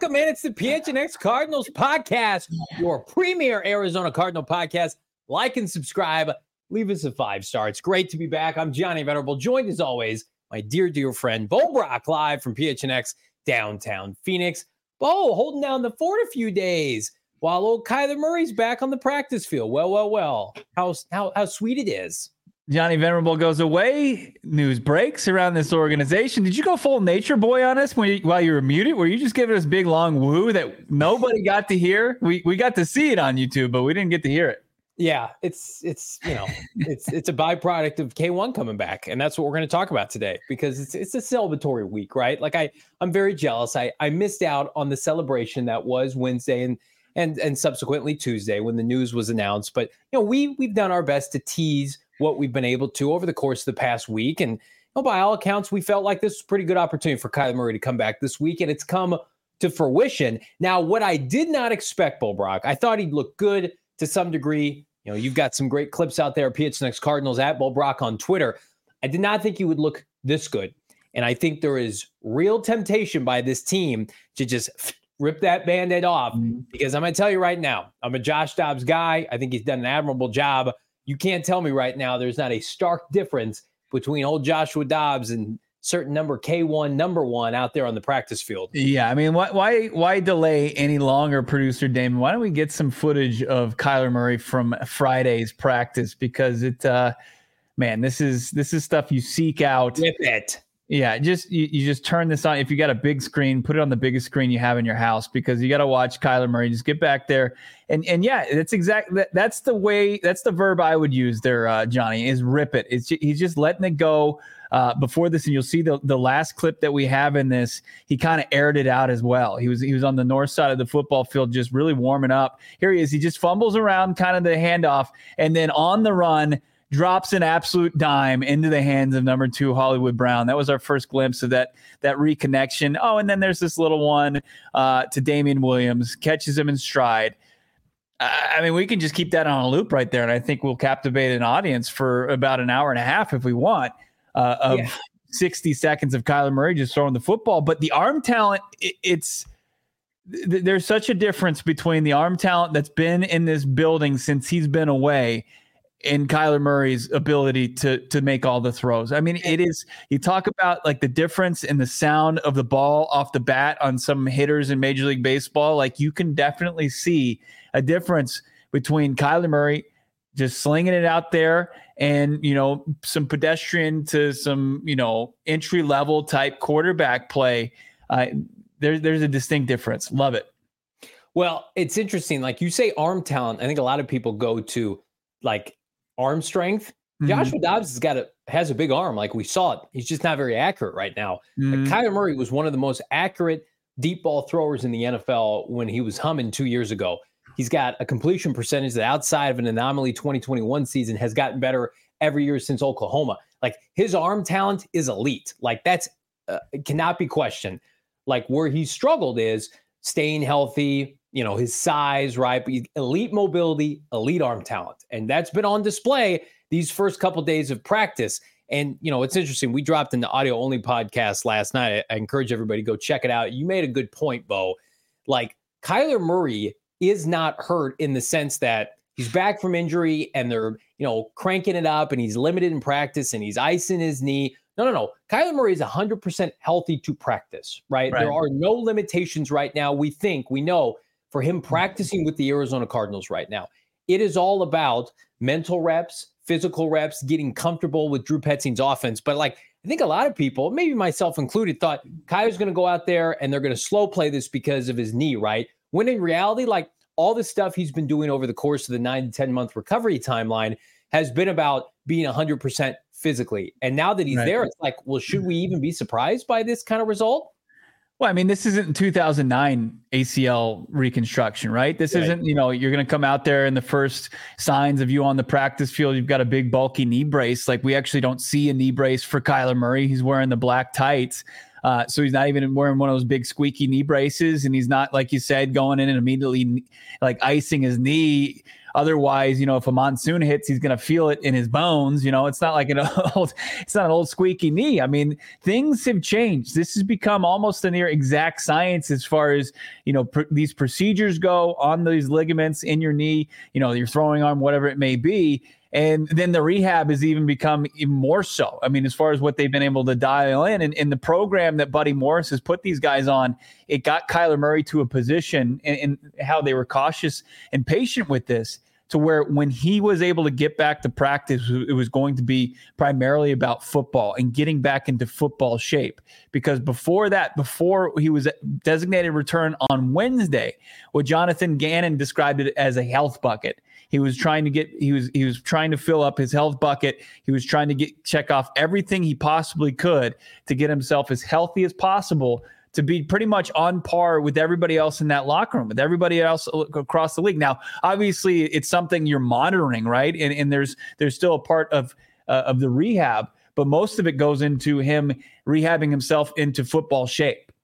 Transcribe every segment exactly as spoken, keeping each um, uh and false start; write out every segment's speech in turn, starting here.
Welcome in. It's the P H N X Cardinals podcast, your premier Arizona Cardinal podcast. Like and subscribe. Leave us a five star. It's great to be back. I'm Johnny Venerable, joined as always, my dear, dear friend, Bo Brock, live from P H N X downtown Phoenix. Bo, holding down the fort a few days while old Kyler Murray's back on the practice field. Well, well, well. How, how, how sweet it is. Johnny Venerable goes away. News breaks around this organization. Did you go full nature boy on us when you, while you were muted? Were you just giving us big long woo that nobody got to hear? We we got to see it on YouTube, but we didn't get to hear it. Yeah, it's it's you know it's it's a byproduct of K one coming back, and that's what we're going to talk about today because it's it's a celebratory week, right? Like I I'm very jealous. I I missed out on the celebration that was Wednesday and and and subsequently Tuesday when the news was announced. But you know we we've done our best to tease what we've been able to over the course of the past week. And you know, by all accounts, we felt like this was a pretty good opportunity for Kyler Murray to come back this week, and it's come to fruition. Now, what I did not expect, Bo Brock, I thought he'd look good to some degree. You know, you've got some great clips out there, P H N X Cardinals at Bo Brock on Twitter. I did not think he would look this good. And I think there is real temptation by this team to just rip that Band-Aid off, because I'm going to tell you right now, I'm a Josh Dobbs guy. I think he's done an admirable job. You can't tell me right now there's not a stark difference between old Joshua Dobbs and certain number K one, number one out there on the practice field. Yeah, I mean, why why why delay any longer, producer Damon? Why don't we get some footage of Kyler Murray from Friday's practice? Because it, uh, man, this is this is stuff you seek out. With it. Yeah, just you, you just turn this on. If you got a big screen, put it on the biggest screen you have in your house, because you got to watch Kyler Murray. Just get back there, and and yeah, that's exactly that, that's the way. That's the verb I would use there, uh, Johnny. Is rip it. It's he's just letting it go. Uh, before this, and you'll see the the last clip that we have in this. He kind of aired it out as well. He was he was on the north side of the football field, just really warming up. Here he is. He just fumbles around, kind of the handoff, and then on the run, drops an absolute dime into the hands of number two, Hollywood Brown. That was our first glimpse of that that reconnection. Oh, and then there's this little one uh, to Damian Williams, catches him in stride. I mean, we can just keep that on a loop right there, and I think we'll captivate an audience for about an hour and a half if we want, uh, of yeah. sixty seconds of Kyler Murray just throwing the football. But the arm talent, it, it's th- there's such a difference between the arm talent that's been in this building since he's been away in Kyler Murray's ability to to make all the throws. I mean, it is, you talk about like the difference in the sound of the ball off the bat on some hitters in Major League Baseball. Like you can definitely see a difference between Kyler Murray just slinging it out there and, you know, some pedestrian to some, you know, entry level type quarterback play. Uh, there, there's a distinct difference. Love it. Well, it's interesting. Like you say arm talent, I think a lot of people go to like arm strength. Mm-hmm. Joshua Dobbs has got a has a big arm, like we saw it. He's just not very accurate right now. Mm-hmm. Like Kyler Murray was one of the most accurate deep ball throwers in the N F L when he was humming two years ago. He's got a completion percentage that outside of an anomaly twenty twenty-one season has gotten better every year since Oklahoma. Like his arm talent is elite. Like that's uh, cannot be questioned. Like where he struggled is staying healthy, you know, his size, right? But elite mobility, elite arm talent. And that's been on display these first couple of days of practice. And, you know, it's interesting. We dropped in the audio only podcast last night. I, I encourage everybody to go check it out. You made a good point, Bo. Like Kyler Murray is not hurt in the sense that he's back from injury and they're, you know, cranking it up and he's limited in practice and he's icing his knee. No, no, no. Kyler Murray is one hundred percent healthy to practice, right? right? There are no limitations right now. We think, we know, for him practicing with the Arizona Cardinals right now. It is all about mental reps, physical reps, getting comfortable with Drew Petzing's offense. But like, I think a lot of people, maybe myself included, thought Kyler's going to go out there and they're going to slow play this because of his knee, right? When in reality, like all the stuff he's been doing over the course of the nine to ten month recovery timeline has been about being one hundred percent physically. And now that he's right there, it's like, well, should we even be surprised by this kind of result? Well, I mean, this isn't two thousand nine A C L reconstruction, right? This right. isn't, you know, you're going to come out there and the first signs of you on the practice field, you've got a big bulky knee brace. Like we actually don't see a knee brace for Kyler Murray. He's wearing the black tights. Uh, so he's not even wearing one of those big squeaky knee braces. And he's not, like you said, going in and immediately like icing his knee Otherwise, you know, if a monsoon hits, he's going to feel it in his bones. You know, it's not like an old, it's not an old squeaky knee. I mean, things have changed. This has become almost a near exact science as far as, you know, pr- these procedures go on these ligaments in your knee, you know, your throwing arm, whatever it may be. And then the rehab has even become even more so. I mean, as far as what they've been able to dial in, and, and the program that Buddy Morris has put these guys on, it got Kyler Murray to a position, and, and how they were cautious and patient with this, to where when he was able to get back to practice, it was going to be primarily about football and getting back into football shape. Because before that, before he was designated return on Wednesday, what Jonathan Gannon described it as a health bucket. He was trying to get, he was, he was trying to fill up his health bucket. He was trying to get, check off everything he possibly could to get himself as healthy as possible, to be pretty much on par with everybody else in that locker room, with everybody else across the league. Now, obviously it's something you're monitoring, right? And, and there's, there's still a part of, uh, of the rehab, but most of it goes into him rehabbing himself into football shape.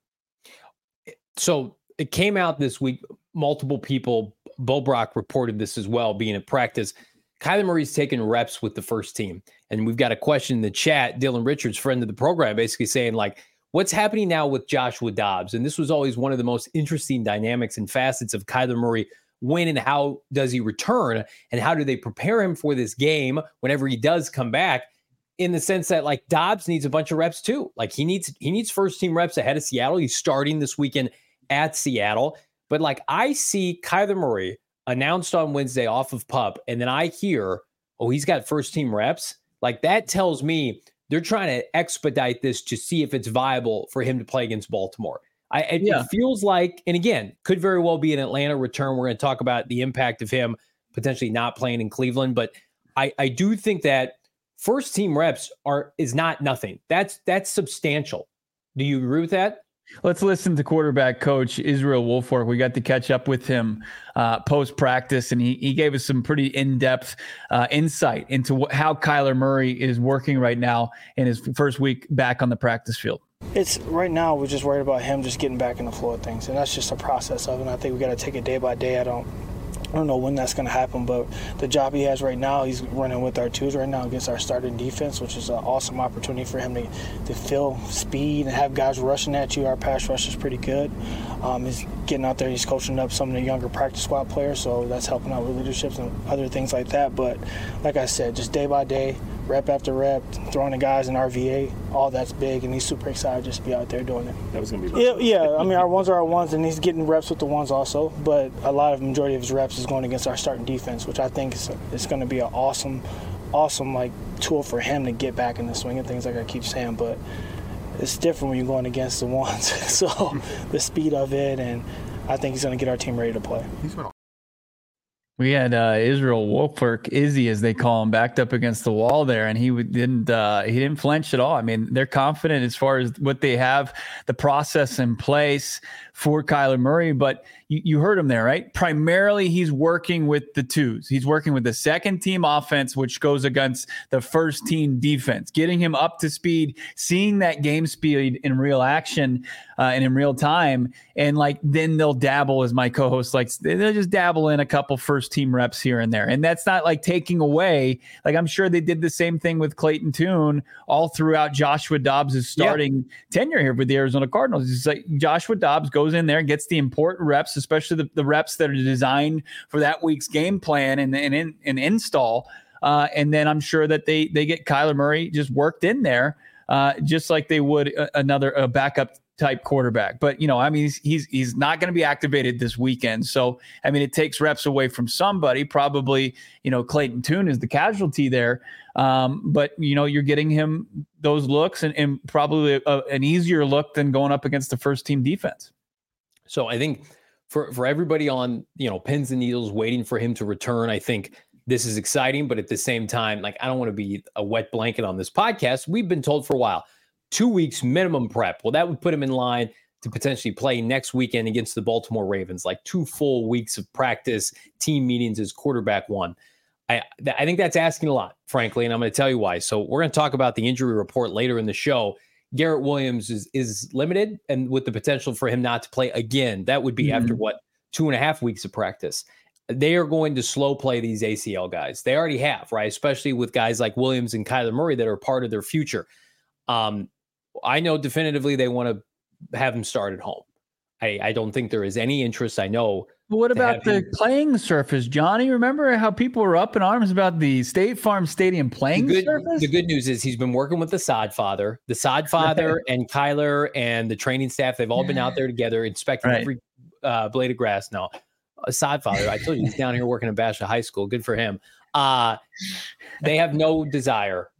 So it came out this week, multiple people, Bo Brock reported this as well, being at practice. Kyler Murray's taking reps with the first team. And we've got a question in the chat, Dylan Richards, friend of the program, basically saying, like, what's happening now with Joshua Dobbs? And this was always one of the most interesting dynamics and facets of Kyler Murray. When and how does he return? And how do they prepare him for this game whenever he does come back? In the sense that, like, Dobbs needs a bunch of reps too. Like, he needs he needs first team reps ahead of Seattle. He's starting this weekend at Seattle. But, like, I see Kyler Murray announced on Wednesday off of PUP, and then I hear, oh, he's got first team reps. Like, that tells me they're trying to expedite this to see if it's viable for him to play against Baltimore. I, it, yeah. it feels like, and again, could very well be an Atlanta return. We're going to talk about the impact of him potentially not playing in Cleveland, but I, I do think that first team reps are is not nothing. That's that's substantial. Do you agree with that? Let's listen to quarterback coach Israel Wolfork. We got to catch up with him uh, post-practice, and he, he gave us some pretty in-depth uh, insight into wh- how Kyler Murray is working right now in his first week back on the practice field. It's right now we're just worried about him just getting back in the flow of things, and that's just a process of it. And I think we got to take it day by day. I don't I don't know when that's going to happen, but the job he has right now, he's running with our twos right now against our starting defense, which is an awesome opportunity for him to, to feel speed and have guys rushing at you. Our pass rush is pretty good. Um, he's getting out there. He's coaching up some of the younger practice squad players, so that's helping out with leadership and other things like that. But like I said, just day by day, rep after rep, throwing the guys in R V A, all that's big, and he's super excited just to be out there doing it. That was going to be yeah, yeah, I mean, our ones are our ones, and he's getting reps with the ones also, but a lot of the majority of his reps is going against our starting defense, which I think is, is going to be an awesome, awesome like tool for him to get back in the swing of things, like I keep saying, but it's different when you're going against the ones. So the speed of it, and I think he's going to get our team ready to play. We had uh, Israel Wolfork, Izzy as they call him, backed up against the wall there, and he didn't uh, he didn't flinch at all. I mean, they're confident as far as what they have, the process in place for Kyler Murray, but you, you heard him there, right? Primarily, he's working with the twos. He's working with the second team offense, which goes against the first team defense, getting him up to speed, seeing that game speed in real action uh, and in real time. And like, then they'll dabble, as my co-host likes, they'll just dabble in a couple first team reps here and there. And that's not like taking away, like I'm sure they did the same thing with Clayton Tune all throughout Joshua Dobbs' starting yeah. tenure here with the Arizona Cardinals. It's like Joshua Dobbs goes in there and gets the important reps, especially the, the reps that are designed for that week's game plan and, and, and, and install. Uh, and then I'm sure that they they get Kyler Murray just worked in there, uh, just like they would a, another a backup type quarterback. But, you know, I mean, he's he's, he's not going to be activated this weekend. So, I mean, it takes reps away from somebody. Probably, you know, Clayton Tune is the casualty there. Um, but, you know, you're getting him those looks and, and probably a, an easier look than going up against the first team defense. So I think for, for everybody on, you know, pins and needles waiting for him to return, I think this is exciting. But at the same time, like, I don't want to be a wet blanket on this podcast. We've been told for a while, two weeks minimum prep. Well, that would put him in line to potentially play next weekend against the Baltimore Ravens, like two full weeks of practice, team meetings as quarterback one. I, I think that's asking a lot, frankly, and I'm going to tell you why. So we're going to talk about the injury report later in the show. Garrett Williams is is limited, and with the potential for him not to play again. That would be mm-hmm. after, what, two and a half weeks of practice. they are going to slow play these A C L guys. They already have, right? Especially with guys like Williams and Kyler Murray that are part of their future. Um, I know definitively they want to have him start at home. I, I don't think there is any interest. I know. But what about the him... playing surface, Johnny? Remember how people were up in arms about the State Farm Stadium playing the good, surface? The good news is he's been working with the Sod Father. The Sod Father and Kyler and the training staff, they've all been out there together inspecting right. every uh, blade of grass. No, a Sod Father, I told you, he's down here working at Basha High School. Good for him. Uh, they have no desire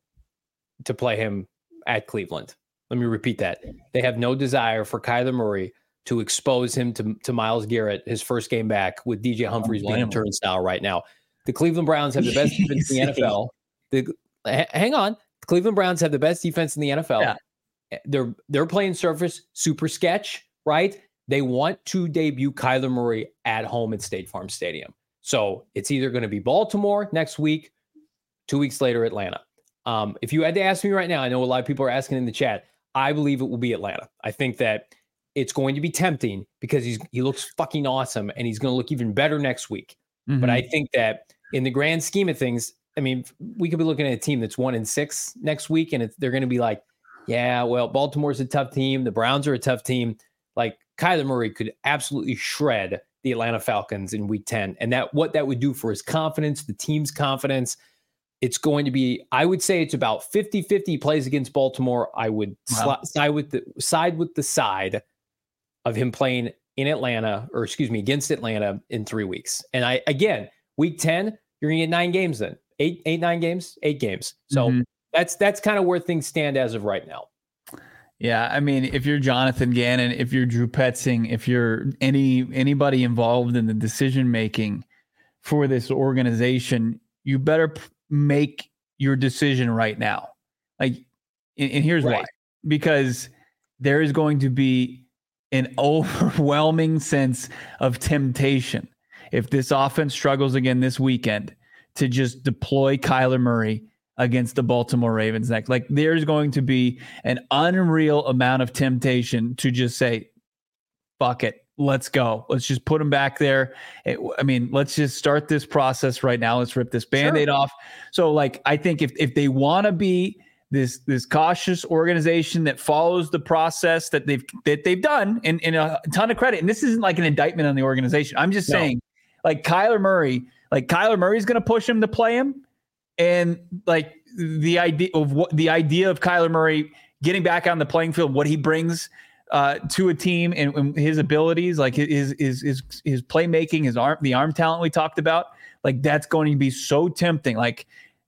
to play him at Cleveland. Let me repeat that. They have no desire for Kyler Murray to expose him to, to Myles Garrett, his first game back, with D J Humphries being a turnstile right now. The Cleveland Browns have the best defense in the N F L. The, hang on. The Cleveland Browns have the best defense in the N F L. Yeah. They're they're playing surface, super sketch, right? They want to debut Kyler Murray at home at State Farm Stadium. So it's either going to be Baltimore next week, two weeks later, Atlanta. Um, if you had to ask me right now, I know a lot of people are asking in the chat, I believe it will be Atlanta. I think that it's going to be tempting because he's he looks fucking awesome and he's going to look even better next week. Mm-hmm. But I think that in the grand scheme of things, I mean, we could be looking at a team that's one and six next week, and it's, they're going to be like, yeah, well, Baltimore's a tough team. The Browns are a tough team. Like Kyler Murray could absolutely shred the Atlanta Falcons in week ten. And that what that would do for his confidence, the team's confidence, it's going to be, I would say it's about fifty-fifty plays against Baltimore. I would wow. sli- side with the side with the side of him playing in Atlanta, or excuse me, against Atlanta in three weeks. And I, again, week ten, you're gonna get nine games then. Eight, eight, nine games, eight games. So mm-hmm. that's that's kind of where things stand as of right now. Yeah, I mean, if you're Jonathan Gannon, if you're Drew Petzing, if you're any anybody involved in the decision making for this organization, you better p- make your decision right now. Like, and, and here's right. why: because there is going to be an overwhelming sense of temptation if this offense struggles again this weekend to just deploy Kyler Murray against the Baltimore Ravens next. Like, there's going to be an unreal amount of temptation to just say, fuck it, let's go. Let's just put him back there. It, I mean, let's just start this process right now. Let's rip this Band-Aid sure. off. So, like, I think if if they want to be this this cautious organization that follows the process that they've that they've done, and, and a ton of credit, and this isn't like an indictment on the organization. I'm just no. saying, like, Kyler Murray, like Kyler Murray's going to push him to play him. And like the idea of what the idea of Kyler Murray getting back on the playing field, what he brings uh, to a team, and, and his abilities, like his his his his playmaking, his arm, the arm talent we talked about, like that's going to be so tempting. Like,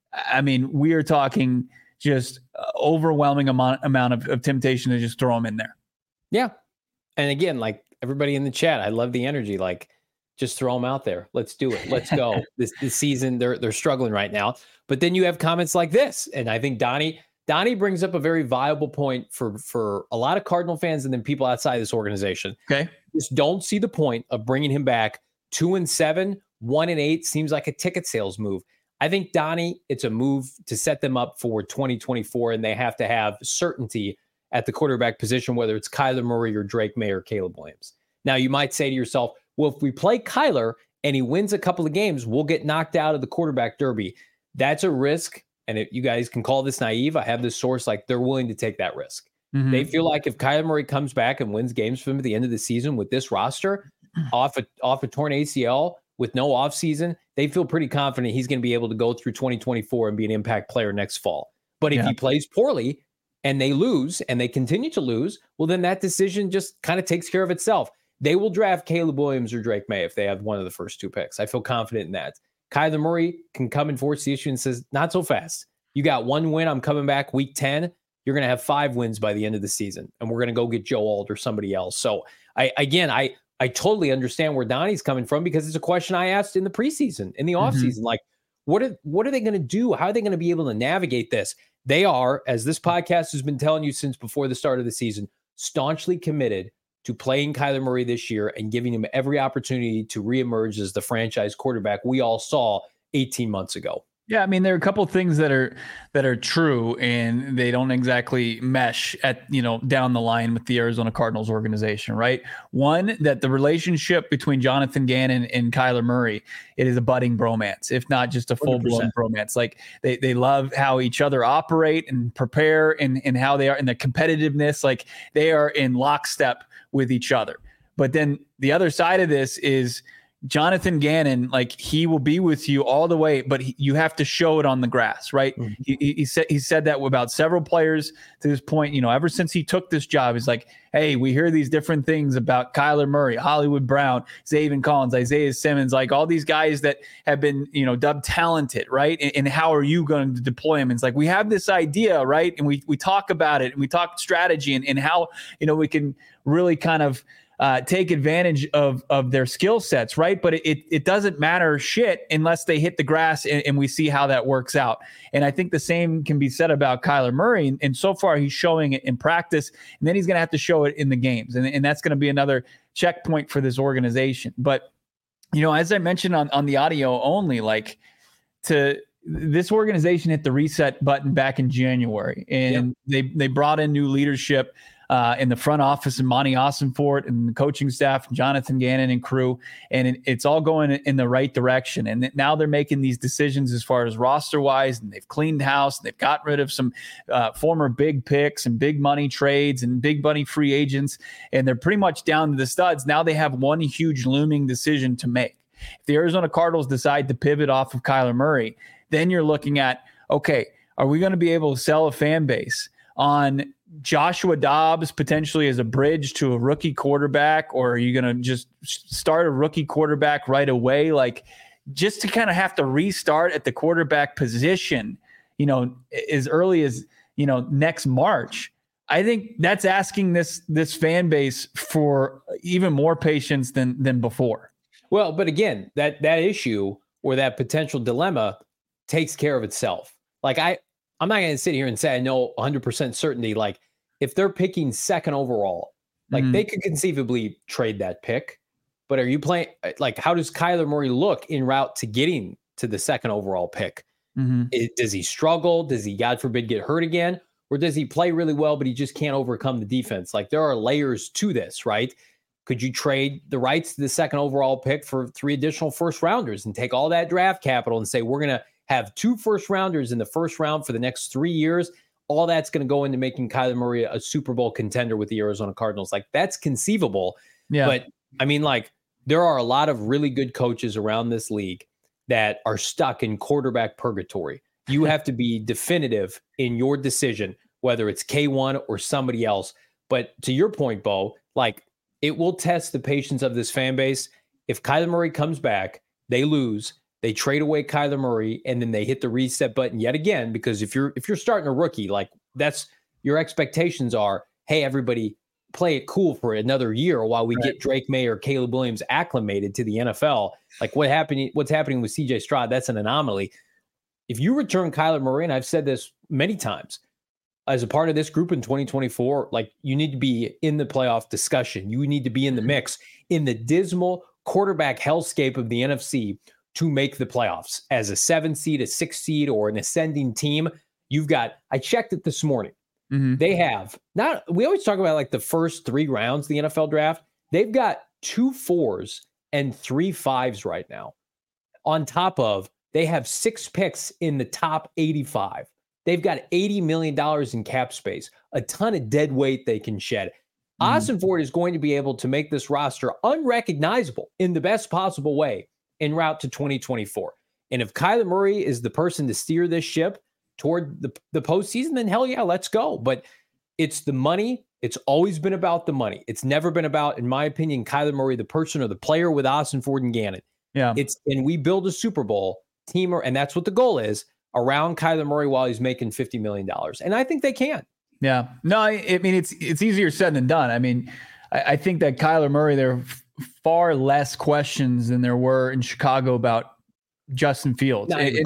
I mean, we are talking just overwhelming amount amount of, of temptation to just throw him in there. Yeah, and again, like everybody in the chat, I love the energy. Like, just throw them out there. Let's do it. Let's go. this this season, they're they're struggling right now. But then you have comments like this, and I think Donnie Donnie brings up a very viable point for for a lot of Cardinal fans and then people outside this organization. Okay, just don't see the point of bringing him back. Two and seven, one and eight seems like a ticket sales move. I think, Donnie, it's a move to set them up for twenty twenty-four, and they have to have certainty at the quarterback position, whether it's Kyler Murray or Drake May or Caleb Williams. Now, you might say to yourself, well, if we play Kyler and he wins a couple of games, we'll get knocked out of the quarterback derby. That's a risk. And it, you guys can call this naive. I have this source, like they're willing to take that risk. Mm-hmm. They feel like if Kyler Murray comes back and wins games for them at the end of the season with this roster, off a, off a torn A C L with no offseason, they feel pretty confident he's going to be able to go through twenty twenty-four and be an impact player next fall. But if yeah. he plays poorly and they lose and they continue to lose, well, then that decision just kind of takes care of itself. They will draft Caleb Williams or Drake May if they have one of the first two picks. I feel confident in that. Kyler Murray can come and force the issue and says, not so fast. You got one win. I'm coming back week ten. You're going to have five wins by the end of the season, and we're going to go get Joe Alt or somebody else. So, I again, I I totally understand where Donnie's coming from, because it's a question I asked in the preseason, in the offseason. Mm-hmm. Like, what are, what are they going to do? How are they going to be able to navigate this? They are, as this podcast has been telling you since before the start of the season, staunchly committed to playing Kyler Murray this year and giving him every opportunity to reemerge as the franchise quarterback we all saw eighteen months ago. Yeah, I mean, there are a couple of things that are that are true, and they don't exactly mesh at you know down the line with the Arizona Cardinals organization, right? One, that the relationship between Jonathan Gannon and Kyler Murray, it is a budding bromance, if not just a full blown bromance. Like they they love how each other operate and prepare, and and how they are in the competitiveness. Like they are in lockstep with each other. But then the other side of this is Jonathan Gannon, like he will be with you all the way, but he, you have to show it on the grass, right? Mm-hmm. He, he said he said that about several players to this point. You know, ever since he took this job, he's like, "Hey, we hear these different things about Kyler Murray, Hollywood Brown, Zaven Collins, Isaiah Simmons, like all these guys that have been, you know, dubbed talented, right? And, and how are you going to deploy them?" And it's like we have this idea, right? And we we talk about it, and we talk strategy, and, and how you know we can really kind of Uh, take advantage of of their skill sets, right? But it it doesn't matter shit unless they hit the grass and, and we see how that works out. And I think the same can be said about Kyler Murray. And, and so far, he's showing it in practice, and then he's going to have to show it in the games. And, and that's going to be another checkpoint for this organization. But, you know, as I mentioned on, on the audio only, like to this organization hit the reset button back in January, and yep. they they brought in new leadership Uh, in the front office, and Monty Ossenfort and the coaching staff, Jonathan Gannon and crew, and it, it's all going in the right direction. And now they're making these decisions as far as roster-wise, and they've cleaned house, and they've got rid of some uh, former big picks and big money trades and big money free agents, and they're pretty much down to the studs. Now they have one huge looming decision to make. If the Arizona Cardinals decide to pivot off of Kyler Murray, then you're looking at, okay, are we going to be able to sell a fan base on Joshua Dobbs potentially as a bridge to a rookie quarterback, or are you going to just start a rookie quarterback right away? Like just to kind of have to restart at the quarterback position, you know, as early as, you know, next March. I think that's asking this, this fan base for even more patience than, than before. Well, but again, that, that issue or that potential dilemma takes care of itself. Like I, I'm not going to sit here and say I know one hundred percent certainty. Like if they're picking second overall, like mm-hmm. they could conceivably trade that pick. But are you playing? Like, how does Kyler Murray look en route to getting to the second overall pick? Mm-hmm. It, does he struggle? Does he, God forbid, get hurt again? Or does he play really well, but he just can't overcome the defense? Like there are layers to this, right? Could you trade the rights to the second overall pick for three additional first rounders and take all that draft capital and say, we're going to have two first rounders in the first round for the next three years. All that's going to go into making Kyler Murray a Super Bowl contender with the Arizona Cardinals. Like that's conceivable. Yeah. But I mean, like there are a lot of really good coaches around this league that are stuck in quarterback purgatory. You have to be definitive in your decision, whether it's K one or somebody else. But to your point, Bo, like it will test the patience of this fan base. If Kyler Murray comes back, they lose. They trade away Kyler Murray, and then they hit the reset button yet again. Because if you're if you're starting a rookie, like that's your expectations are, hey, everybody play it cool for another year while we right. get Drake May or Caleb Williams acclimated to the N F L. Like what happened? What's happening with C J Stroud? That's an anomaly. If you return Kyler Murray, and I've said this many times, as a part of this group in twenty twenty-four, like you need to be in the playoff discussion. You need to be in the mix in the dismal quarterback hellscape of the N F C. To make the playoffs as a seven seed, a six seed, or an ascending team. You've got, I checked it this morning. Mm-hmm. They have not, we always talk about like the first three rounds of the N F L draft. They've got two fours and three fives right now. On top of, they have six picks in the top eighty-five. They've got eighty million dollars in cap space, a ton of dead weight they can shed. Mm-hmm. Ossenfort is going to be able to make this roster unrecognizable in the best possible way en route to twenty twenty-four. And if Kyler Murray is the person to steer this ship toward the, the postseason, then hell yeah, let's go. But it's the money. It's always been about the money. It's never been about, in my opinion, Kyler Murray, the person or the player with Ossenfort and Gannon. Yeah. It's, and we build a Super Bowl team, and that's what the goal is, around Kyler Murray while he's making fifty million dollars. And I think they can. Yeah. No, I, I mean, it's, it's easier said than done. I mean, I, I think that Kyler Murray, there far less questions than there were in Chicago about Justin Fields. Not even close.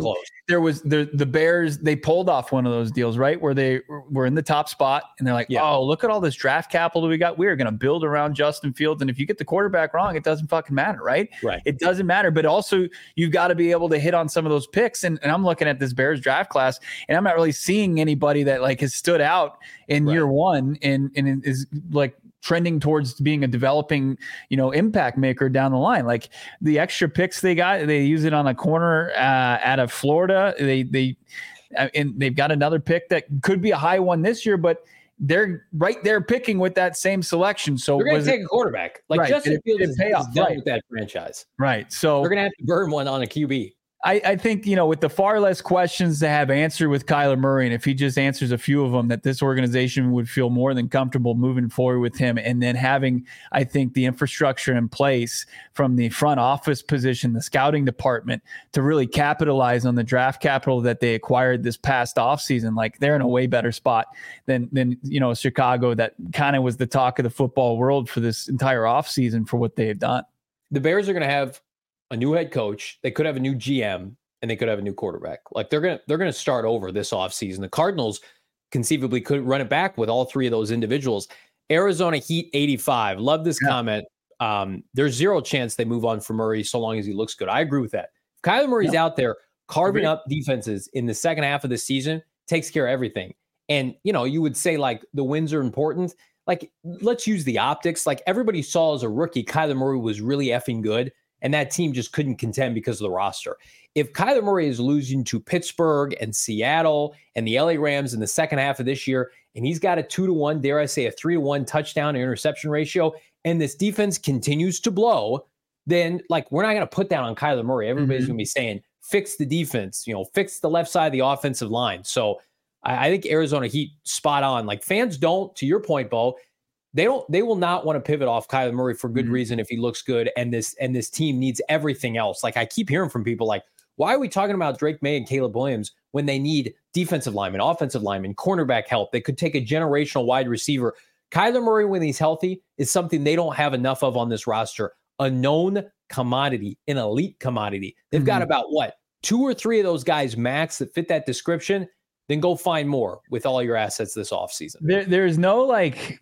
there was the the Bears, they pulled off one of those deals, right? Where they were in the top spot and they're like, yeah. oh, look at all this draft capital that we got. We are going to build around Justin Fields. And if you get the quarterback wrong, it doesn't fucking matter, right? Right. It doesn't matter. But also you've got to be able to hit on some of those picks. And, and I'm looking at this Bears draft class and I'm not really seeing anybody that like has stood out in right. year one and, and is like trending towards being a developing, you know, impact maker down the line. Like the extra picks they got, they use it on a corner uh, out of Florida. They, they, uh, and they've got another pick that could be a high one this year, but they're right there picking with that same selection. So they're going to take it, a quarterback. Like right, Justin Fields is done right. with that franchise. Right. So they're going to have to burn one on a Q B. I, I think, you know, with the far less questions to have answered with Kyler Murray, and if he just answers a few of them, that this organization would feel more than comfortable moving forward with him. And then having, I think, the infrastructure in place from the front office position, the scouting department, to really capitalize on the draft capital that they acquired this past offseason. Like they're in a way better spot than, than you know, Chicago, that kind of was the talk of the football world for this entire offseason for what they have done. The Bears are going to have a new head coach. They could have a new G M and they could have a new quarterback. Like they're going to, they're going to start over this offseason. The Cardinals conceivably could run it back with all three of those individuals. Arizona Heat eighty-five. Love this yeah. comment. Um, there's zero chance they move on from Murray so long as he looks good. I agree with that. If Kyler Murray's yeah. out there carving Agreed. up defenses in the second half of the season, takes care of everything. And, you know, you would say like the wins are important. Like, let's use the optics. Like everybody saw as a rookie, Kyler Murray was really effing good. And that team just couldn't contend because of the roster. If Kyler Murray is losing to Pittsburgh and Seattle and the L A Rams in the second half of this year, and he's got a two to one, dare I say a three to one touchdown to interception ratio, and this defense continues to blow, then like we're not going to put that on Kyler Murray. Everybody's mm-hmm. going to be saying, fix the defense, you know, fix the left side of the offensive line. So I, I think Arizona Heat spot on. Like fans don't, to your point, Bo, They don't. They will not want to pivot off Kyler Murray for good mm-hmm. reason if he looks good, and this and this team needs everything else. Like I keep hearing from people, like, why are we talking about Drake May and Caleb Williams when they need defensive linemen, offensive linemen, cornerback help? They could take a generational wide receiver. Kyler Murray, when he's healthy, is something they don't have enough of on this roster. A known commodity, an elite commodity. They've mm-hmm. got about what two or three of those guys max that fit that description. Then go find more with all your assets this offseason. There, there's no like.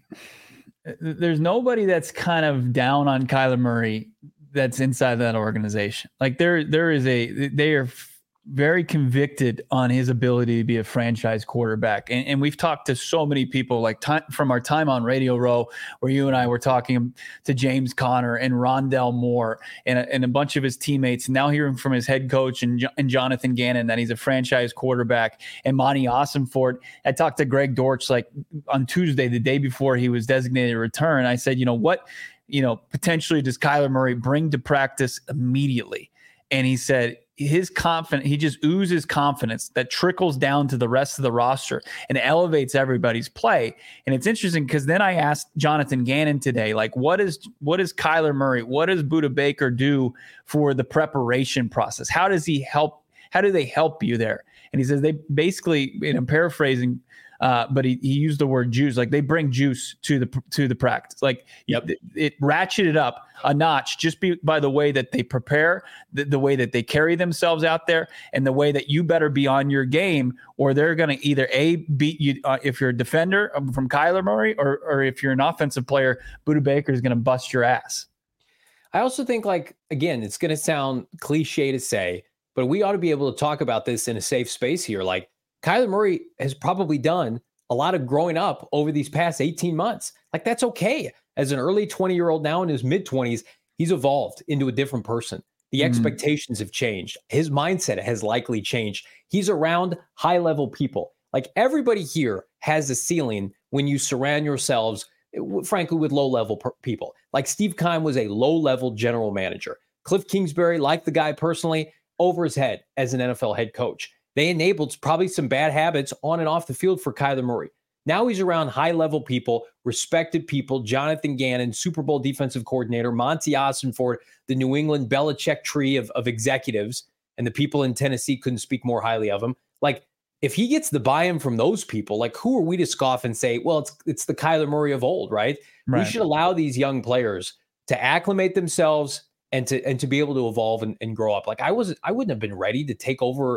There's nobody that's kind of down on Kyler Murray that's inside that organization. Like there, there is a, they are very convicted on his ability to be a franchise quarterback. And, and we've talked to so many people, like time, from our time on Radio Row, where you and I were talking to James Conner and Rondell Moore and a, and a bunch of his teammates. And now hearing from his head coach and, and Jonathan Gannon that he's a franchise quarterback, and Monty Ossenfort. I talked to Greg Dortch like on Tuesday, the day before he was designated a return. I said, you know, what, you know, potentially does Kyler Murray bring to practice immediately? And he said, his confidence, he just oozes confidence that trickles down to the rest of the roster and elevates everybody's play. And it's interesting because then I asked Jonathan Gannon today, like, what is what is Kyler Murray, what does Budda Baker do for the preparation process? How does he help? How do they help you there? And he says they basically, and I'm paraphrasing, uh, but he, he used the word juice. Like they bring juice to the to the practice. Like yep. it, it ratcheted up a notch just be, by the way that they prepare, the, the way that they carry themselves out there, and the way that you better be on your game, or they're going to either A, beat you uh, if you're a defender from Kyler Murray, or or if you're an offensive player, Budda Baker is going to bust your ass. I also think, like, again, it's going to sound cliche to say, but we ought to be able to talk about this in a safe space here. Like, Kyler Murray has probably done a lot of growing up over these past eighteen months. Like, that's okay. As an early twenty-year-old now in his mid-twenties, he's evolved into a different person. The mm-hmm. expectations have changed. His mindset has likely changed. He's around high-level people. Like, everybody here has a ceiling when you surround yourselves, frankly, with low-level per- people. Like, Steve Keim was a low-level general manager. Cliff Kingsbury, like the guy personally, over his head as an N F L head coach. They enabled probably some bad habits on and off the field for Kyler Murray. Now he's around high-level people, respected people, Jonathan Gannon, Super Bowl defensive coordinator, Monty Ossenfort, the New England Belichick tree of, of executives, and the people in Tennessee couldn't speak more highly of him. Like, if he gets the buy-in from those people, like, who are we to scoff and say, well, it's it's the Kyler Murray of old, right? right? We should allow these young players to acclimate themselves and to and to be able to evolve and, and grow up. Like, I wasn't, I wouldn't have been ready to take over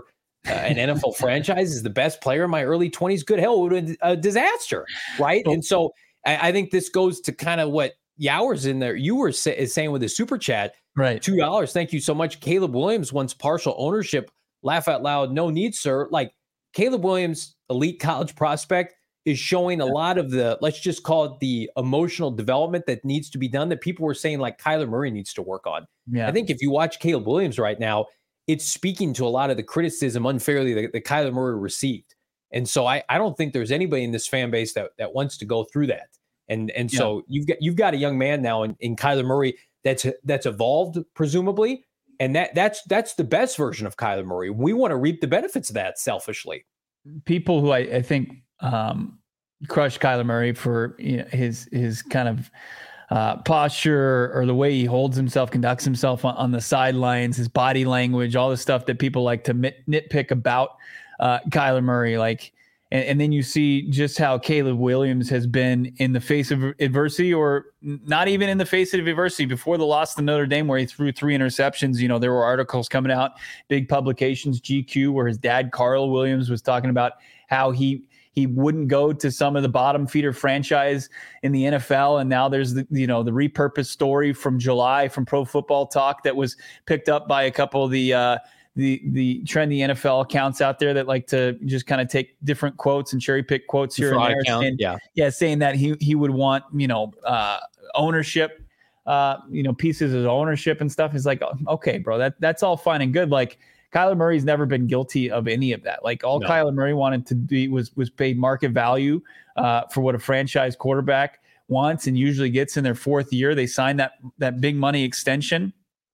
uh, an N F L franchise is the best player in my early twenties, good hell, it would have been a disaster, right? And so I, I think this goes to kind of what Yowers in there, you were say, is saying with the super chat, right? two dollars. Thank you so much. Caleb Williams wants partial ownership. Laugh out loud. No need, sir. Like Caleb Williams, elite college prospect, is showing a lot of the, let's just call it the emotional development that needs to be done that people were saying like Kyler Murray needs to work on. Yeah. I think if you watch Caleb Williams right now, it's speaking to a lot of the criticism unfairly that, that Kyler Murray received. And so I, I don't think there's anybody in this fan base that, that wants to go through that. And and yeah. so you've got you've got a young man now in, in Kyler Murray that's that's evolved, presumably. And that that's that's the best version of Kyler Murray. We want to reap the benefits of that selfishly. People who I, I think um, crush Kyler Murray for you know, his his kind of uh, posture or the way he holds himself, conducts himself on, on the sidelines, his body language, all the stuff that people like to nit, nitpick about uh, Kyler Murray. Like, and, and then you see just how Caleb Williams has been in the face of adversity, or not even in the face of adversity. Before the loss to Notre Dame, where he threw three interceptions, you know, there were articles coming out, big publications, G Q, where his dad, Carl Williams, was talking about how he he wouldn't go to some of the bottom feeder franchise in the N F L. And now there's the, you know, the repurposed story from July from Pro Football Talk that was picked up by a couple of the, uh, the, the trendy N F L accounts out there that like to just kind of take different quotes and cherry pick quotes here and there. Account, and, yeah. Yeah. Saying that he, he would want, you know, uh, ownership, uh, you know, pieces of ownership and stuff. Is like, okay, bro, that that's all fine and good. Like, Kyler Murray's never been guilty of any of that. Like all no. Kyler Murray wanted to be was was paid market value uh, for what a franchise quarterback wants and usually gets in their fourth year. They sign that that big money extension,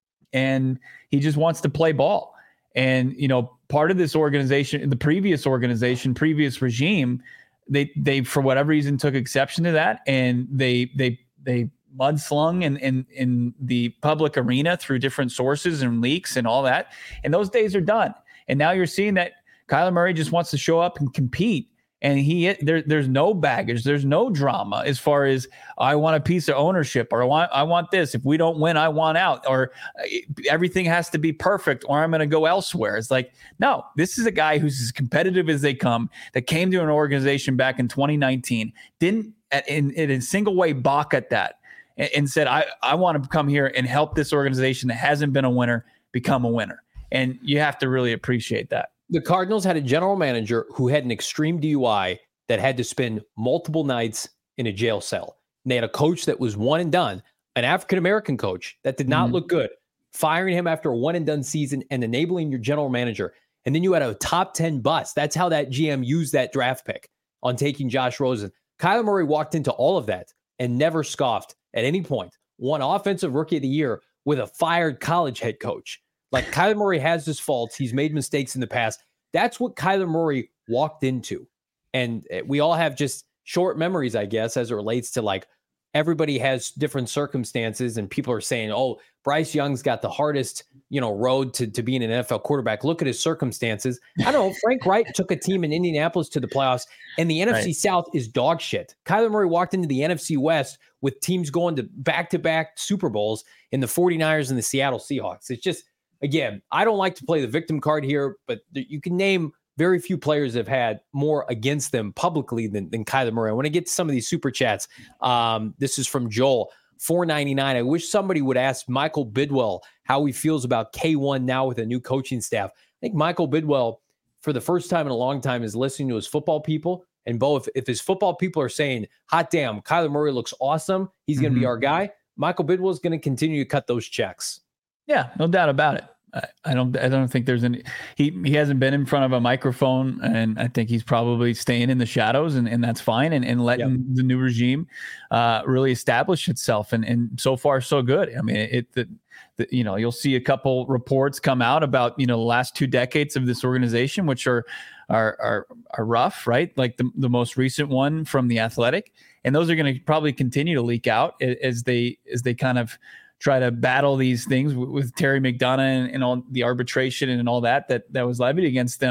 and he just wants to play ball. And you know, part of this organization, the previous organization, previous regime, they they for whatever reason took exception to that, and they they they. mudslung in, in in the public arena through different sources and leaks and all that. And those days are done. And now you're seeing that Kyler Murray just wants to show up and compete. And he there, there's no baggage. There's no drama as far as I want a piece of ownership, or I want I want this. If we don't win, I want out, or everything has to be perfect, or I'm going to go elsewhere. It's like, no, this is a guy who's as competitive as they come, that came to an organization back in twenty nineteen, didn't in, in a single way balk at that, and said, I, I want to come here and help this organization that hasn't been a winner become a winner. And you have to really appreciate that. The Cardinals had a general manager who had an extreme D U I that had to spend multiple nights in a jail cell. And they had a coach that was one and done, an African-American coach that did not mm-hmm. look good, firing him after a one and done season and enabling your general manager. And then you had a top ten bust. That's how that G M used that draft pick on taking Josh Rosen. Kyler Murray walked into all of that and never scoffed at any point. Won Offensive Rookie of the Year with a fired college head coach. Like, Kyler Murray has his faults. He's made mistakes in the past. That's what Kyler Murray walked into. And we all have just short memories, I guess, as it relates to, like, everybody has different circumstances, and people are saying, oh, Bryce Young's got the hardest, you know, road to, to being an N F L quarterback. Look at his circumstances. I don't know. Frank Reich took a team in Indianapolis to the playoffs, and the N F C right. South is dog shit. Kyler Murray walked into the N F C West with teams going to back-to-back Super Bowls in the 49ers and the Seattle Seahawks. It's just, again, I don't like to play the victim card here, but you can name very few players that have had more against them publicly than, than Kyler Murray. I want to get to some of these super chats. Um, this is from Joel, four ninety-nine. I wish somebody would ask Michael Bidwell how he feels about K one now with a new coaching staff. I think Michael Bidwell, for the first time in a long time, is listening to his football people. And Bo, if, if his football people are saying, hot damn, Kyler Murray looks awesome, he's going to mm-hmm. be our guy, Michael Bidwell is going to continue to cut those checks. Yeah, no doubt about it. I don't. I don't think there's any. He he hasn't been in front of a microphone, and I think he's probably staying in the shadows, and, and that's fine. And, and letting yep. the new regime uh, really establish itself. And and so far so good. I mean, it. The, the, you know, you'll see a couple reports come out about you know the last two decades of this organization, which are are are, are rough, right? Like the the most recent one from The Athletic, and those are going to probably continue to leak out as they as they kind of try to battle these things with, with Terry McDonough and, and all the arbitration and all that, that, that was levied against them.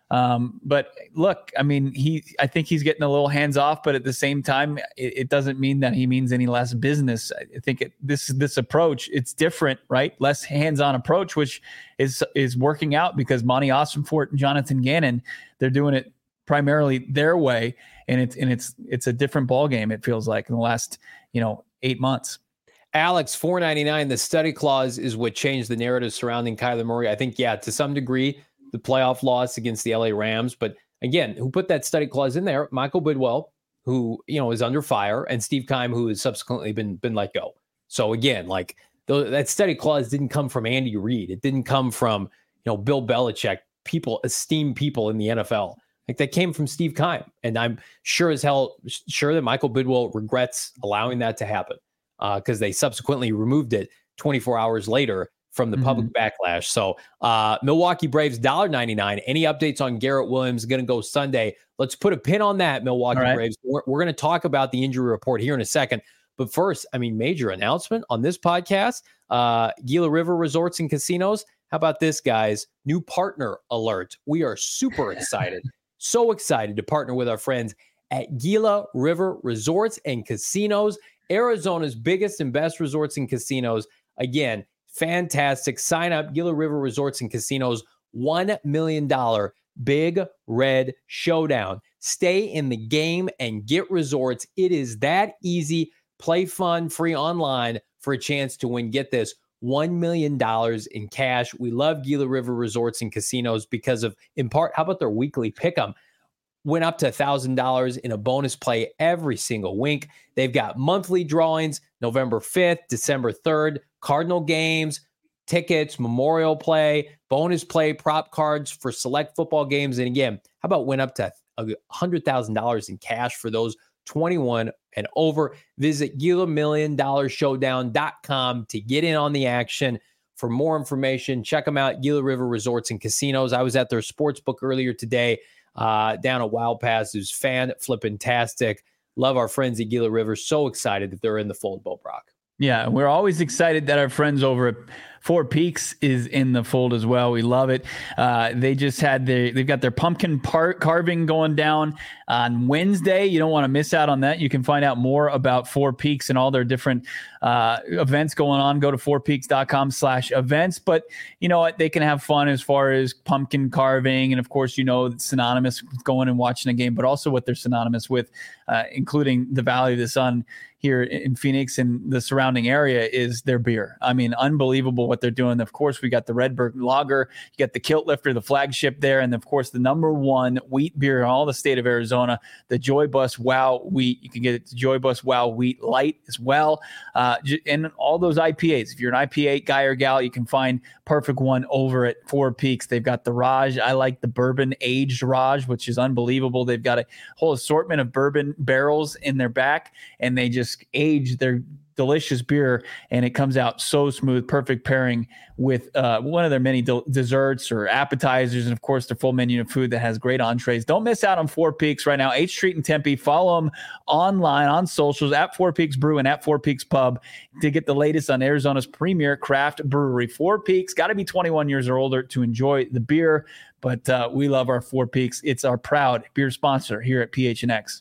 Um, but look, I mean, he, I think he's getting a little hands off, but at the same time, it, it doesn't mean that he means any less business. I think it, this, this approach, it's different, right? Less hands-on approach, which is, is working out because Monty Ossenfort and Jonathan Gannon, they're doing it primarily their way. And it's, and it's, it's a different ball game. It feels like in the last, you know, eight months. Alex, four ninety-nine, the study clause is what changed the narrative surrounding Kyler Murray. I think, yeah, to some degree, the playoff loss against the L A Rams. But again, who put that study clause in there? Michael Bidwell, who, you know, is under fire, and Steve Keim, who has subsequently been, been let go. So again, like th- that study clause didn't come from Andy Reid. It didn't come from, you know, Bill Belichick, people, esteemed people in the N F L. Like that came from Steve Keim. And I'm sure as hell sure that Michael Bidwell regrets allowing that to happen because uh, they subsequently removed it twenty-four hours later from the public mm-hmm. backlash. So uh, Milwaukee Braves, one dollar ninety-nine. Any updates on Garrett Williams? Going to go Sunday. Let's put a pin on that, Milwaukee right. Braves. We're, we're going to talk about the injury report here in a second. But first, I mean, major announcement on this podcast, uh, Gila River Resorts and Casinos. How about this, guys? New partner alert. We are super excited. So excited to partner with our friends at Gila River Resorts and Casinos, Arizona's biggest and best resorts and casinos. Again, fantastic. Sign up, Gila River Resorts and Casinos, one million dollars Big Red Showdown. Stay in the game and get resorts. It is that easy. Play fun, free online for a chance to win. Get this, one million dollars in cash. We love Gila River Resorts and Casinos because of, in part, how about their weekly pick'em? Went up to one thousand dollars in a bonus play every single week. They've got monthly drawings, November fifth, December third, Cardinal games, tickets, memorial play, bonus play, prop cards for select football games. And again, how about went up to one hundred thousand dollars in cash for those twenty-one and over? Visit Gila Million Dollar Showdown dot com to get in on the action. For more information, check them out, Gila River Resorts and Casinos. I was at their sports book earlier today uh, down at Wild Pass. It was fan-flippin-tastic. Love our friends at Gila River. So excited that they're in the fold, Bo Brock. Yeah, we're always excited that our friends over at Four Peaks is in the fold as well. We love it. Uh, they just had their, they've got their pumpkin part carving going down on Wednesday. You don't want to miss out on that. You can find out more about Four Peaks and all their different uh, events going on. Go to four peaks dot com slash events. But you know what? They can have fun as far as pumpkin carving. And of course, you know, it's synonymous with going and watching a game, but also what they're synonymous with, uh, including the Valley of the Sun here in Phoenix and the surrounding area, is their beer. I mean, unbelievable what they're doing. Of course, we got the Redbird Lager, you got the Kilt Lifter, the flagship there, and of course, the number one wheat beer in all the state of Arizona, the Joy Bus Wow Wheat. You can get it to Joy Bus Wow Wheat Light as well, uh, and all those I P As. If you're an I P A guy or gal, you can find perfect one over at Four Peaks. They've got the Raj. I like the bourbon aged Raj, which is unbelievable. They've got a whole assortment of bourbon barrels in their back, and they just age their delicious beer, and it comes out so smooth. Perfect pairing with uh, one of their many de- desserts or appetizers, and of course their full menu of food that has great entrees. Don't miss out on Four Peaks right now. eighth Street in Tempe. Follow them online on socials at Four Peaks Brew and at Four Peaks Pub to get the latest on Arizona's premier craft brewery. Four Peaks, got to be twenty-one years or older to enjoy the beer, but uh, we love our Four Peaks. It's our proud beer sponsor here at P H N X.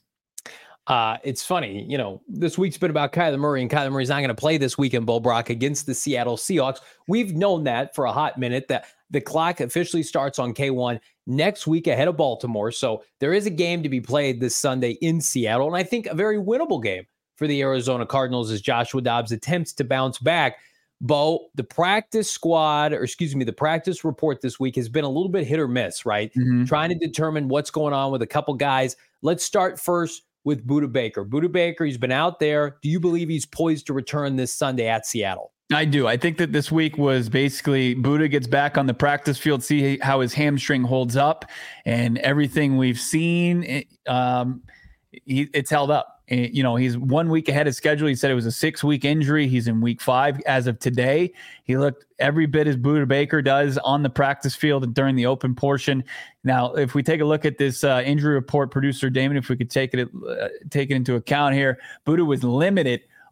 Uh, it's funny, you know, this week's been about Kyler Murray, and Kyler Murray's not going to play this weekend, Bo Brock, against the Seattle Seahawks. We've known that for a hot minute, that the clock officially starts on K one next week ahead of Baltimore. So there is a game to be played this Sunday in Seattle, and I think a very winnable game for the Arizona Cardinals as Joshua Dobbs attempts to bounce back. Bo, the practice squad, or excuse me, the practice report this week has been a little bit hit or miss, right? Mm-hmm. Trying to determine what's going on with a couple guys. Let's start first with Budda Baker. Budda Baker, he's been out there. Do you believe he's poised to return this Sunday at Seattle? I do. I think that this week was basically Budda gets back on the practice field, see how his hamstring holds up, and everything we've seen, um, he, it's held up. You know, he's one week ahead of schedule. He said it was a six-week injury. He's in week five as of today. He looked every bit as Budda Baker does on the practice field during the open portion. Now, if we take a look at this uh, injury report, producer Damon, if we could take it uh, take it into account here, Budda was limited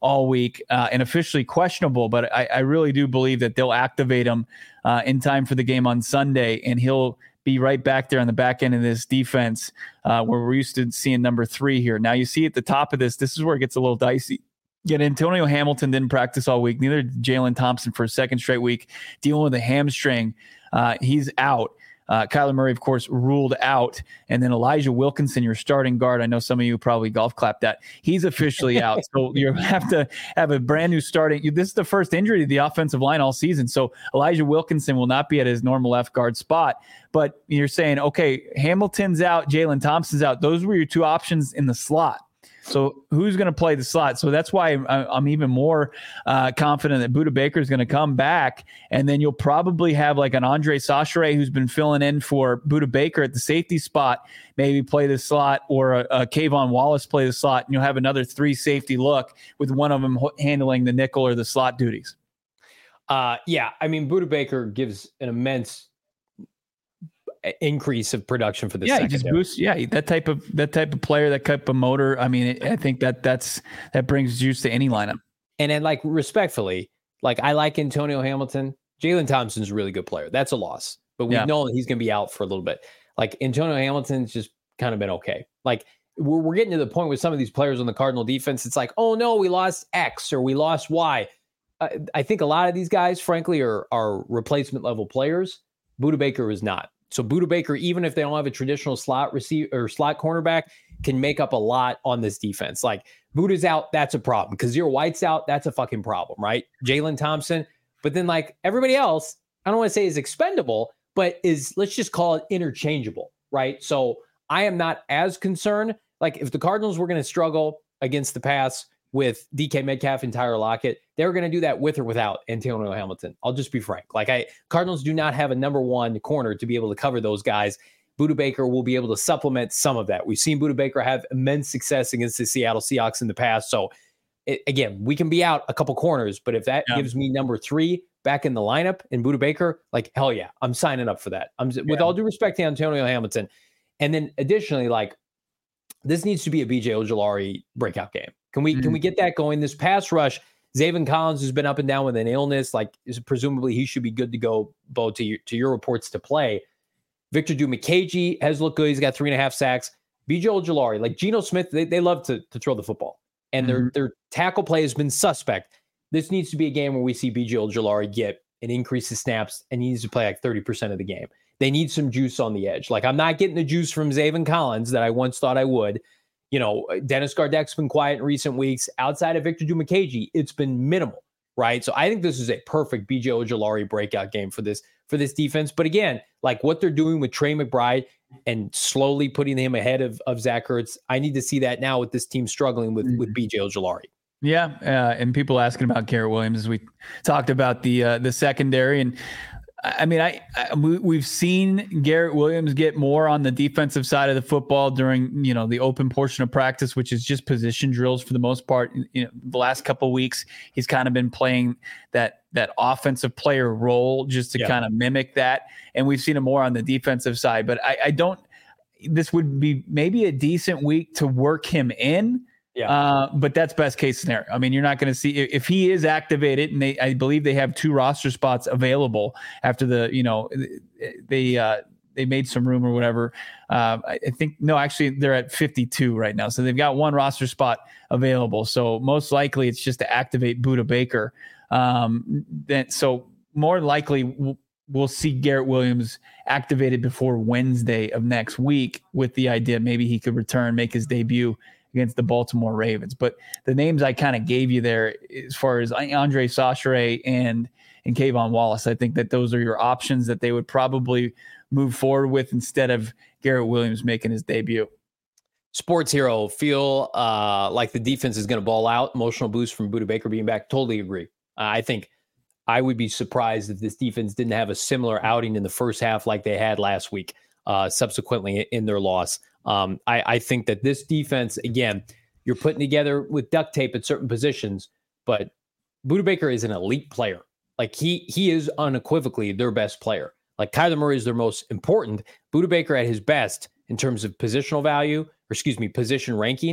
all week uh, and officially questionable. But I, I really do believe that they'll activate him uh, in time for the game on Sunday, and he'll be right back there on the back end of this defense uh, where we're used to seeing number three here. Now you see at the top of this, this is where it gets a little dicey. Yet Antonio Hamilton didn't practice all week. Neither did Jalen Thompson for a second straight week, dealing with a hamstring. Uh, he's out. Uh, Kyler Murray, of course, ruled out. And then Elijah Wilkinson, your starting guard. I know some of you probably golf clapped that. He's officially out. So you have to have a brand new starting. This is the first injury to the offensive line all season. So Elijah Wilkinson will not be at his normal left guard spot. But you're saying, okay, Hamilton's out, Jalen Thompson's out. Those were your two options in the slot. So who's going to play the slot? So that's why I'm even more uh, confident that Budda Baker is going to come back. And then you'll probably have like an Andre Chachere who's been filling in for Budda Baker at the safety spot, maybe play the slot, or a, a Kayvon Wallace play the slot. And you'll have another three safety look with one of them handling the nickel or the slot duties. Uh, yeah, I mean, Budda Baker gives an immense increase of production for the yeah secondary. He just boosts yeah that type of that type of player, that type of motor. I mean it, I think that that's that brings juice to any lineup. And then, like, respectfully, like, I like Antonio Hamilton. Jalen Thompson's a really good player. That's a loss, but we yeah. know he's going to be out for a little bit. Like, Antonio Hamilton's just kind of been okay. Like, we're, we're getting to the point with some of these players on the Cardinal defense. It's like, oh no, we lost X or we lost Y. Uh, I think a lot of these guys, frankly, are are replacement level players. Budda Baker is not. So Budda Baker, even if they don't have a traditional slot receiver or slot cornerback, can make up a lot on this defense. Like, Budda's out, that's a problem. Kazir White's out, that's a fucking problem, right? Jalen Thompson. But then, like, everybody else, I don't want to say is expendable, but is, let's just call it interchangeable, right? So I am not as concerned. Like, if the Cardinals were going to struggle against the pass with D K Metcalf and Tyler Lockett, they were going to do that with or without Antonio Hamilton. I'll just be frank. Like, I Cardinals do not have a number one corner to be able to cover those guys. Budda Baker will be able to supplement some of that. We've seen Budda Baker have immense success against the Seattle Seahawks in the past. So, it, again, we can be out a couple corners, but if that yeah. gives me number three back in the lineup in Budda Baker, like, hell yeah, I'm signing up for that. I'm yeah. with all due respect to Antonio Hamilton. And then additionally, like, this needs to be a B J Ojulari breakout game. Can we, mm-hmm. can we get that going? This pass rush, Zaven Collins has been up and down with an illness. Like, is presumably he should be good to go, Bo, to your, to your reports to play. Victor Dimukeje has looked good. He's got three and a half sacks. B J Ojulari, like Geno Smith, they, they love to, to throw the football. And mm-hmm. their their tackle play has been suspect. This needs to be a game where we see B J Ojulari get an increase of snaps, and he needs to play like thirty percent of the game. They need some juice on the edge. Like, I'm not getting the juice from Zaven Collins that I once thought I would. You know, Dennis Gardeck's been quiet in recent weeks. Outside of Victor Dimukeje, it's been minimal, right? So I think this is a perfect B J Ojulari breakout game for this for this defense. But again, like what they're doing with Trey McBride and slowly putting him ahead of, of Zach Ertz, I need to see that now with this team struggling with, with B J Ojulari. Yeah, uh, and people asking about Garrett Williams as we talked about the uh, the secondary. And I mean, I, I we, we've seen Garrett Williams get more on the defensive side of the football during, you know, the open portion of practice, which is just position drills for the most part. You know, the last couple of weeks, he's kind of been playing that that offensive player role just to yeah. kind of mimic that. And we've seen him more on the defensive side. But I, I don't. This would be maybe a decent week to work him in. Yeah. Uh, but that's best case scenario. I mean, you're not going to see if he is activated, and they, I believe they have two roster spots available after the, you know, they, uh, they made some room or whatever. Uh, I think, no, actually they're at fifty-two right now. So they've got one roster spot available. So most likely it's just to activate Budda Baker. Um, then, so more likely we'll, we'll see Garrett Williams activated before Wednesday of next week, with the idea maybe he could return, make his debut against the Baltimore Ravens. But the names I kind of gave you there, as far as Andre Chachere and and Kayvon Wallace, I think that those are your options that they would probably move forward with instead of Garrett Williams making his debut. Sports Hero, feel uh, like the defense is going to ball out. Emotional boost from Budda Baker being back. Totally agree. Uh, I think I would be surprised if this defense didn't have a similar outing in the first half like they had last week, uh, subsequently in their loss. Um, I, I think that this defense, again, you're putting together with duct tape at certain positions, but Budda Baker is an elite player. Like he he is unequivocally their best player. Like Kyler Murray is their most important. Budda Baker at his best in terms of positional value, or excuse me, position ranking,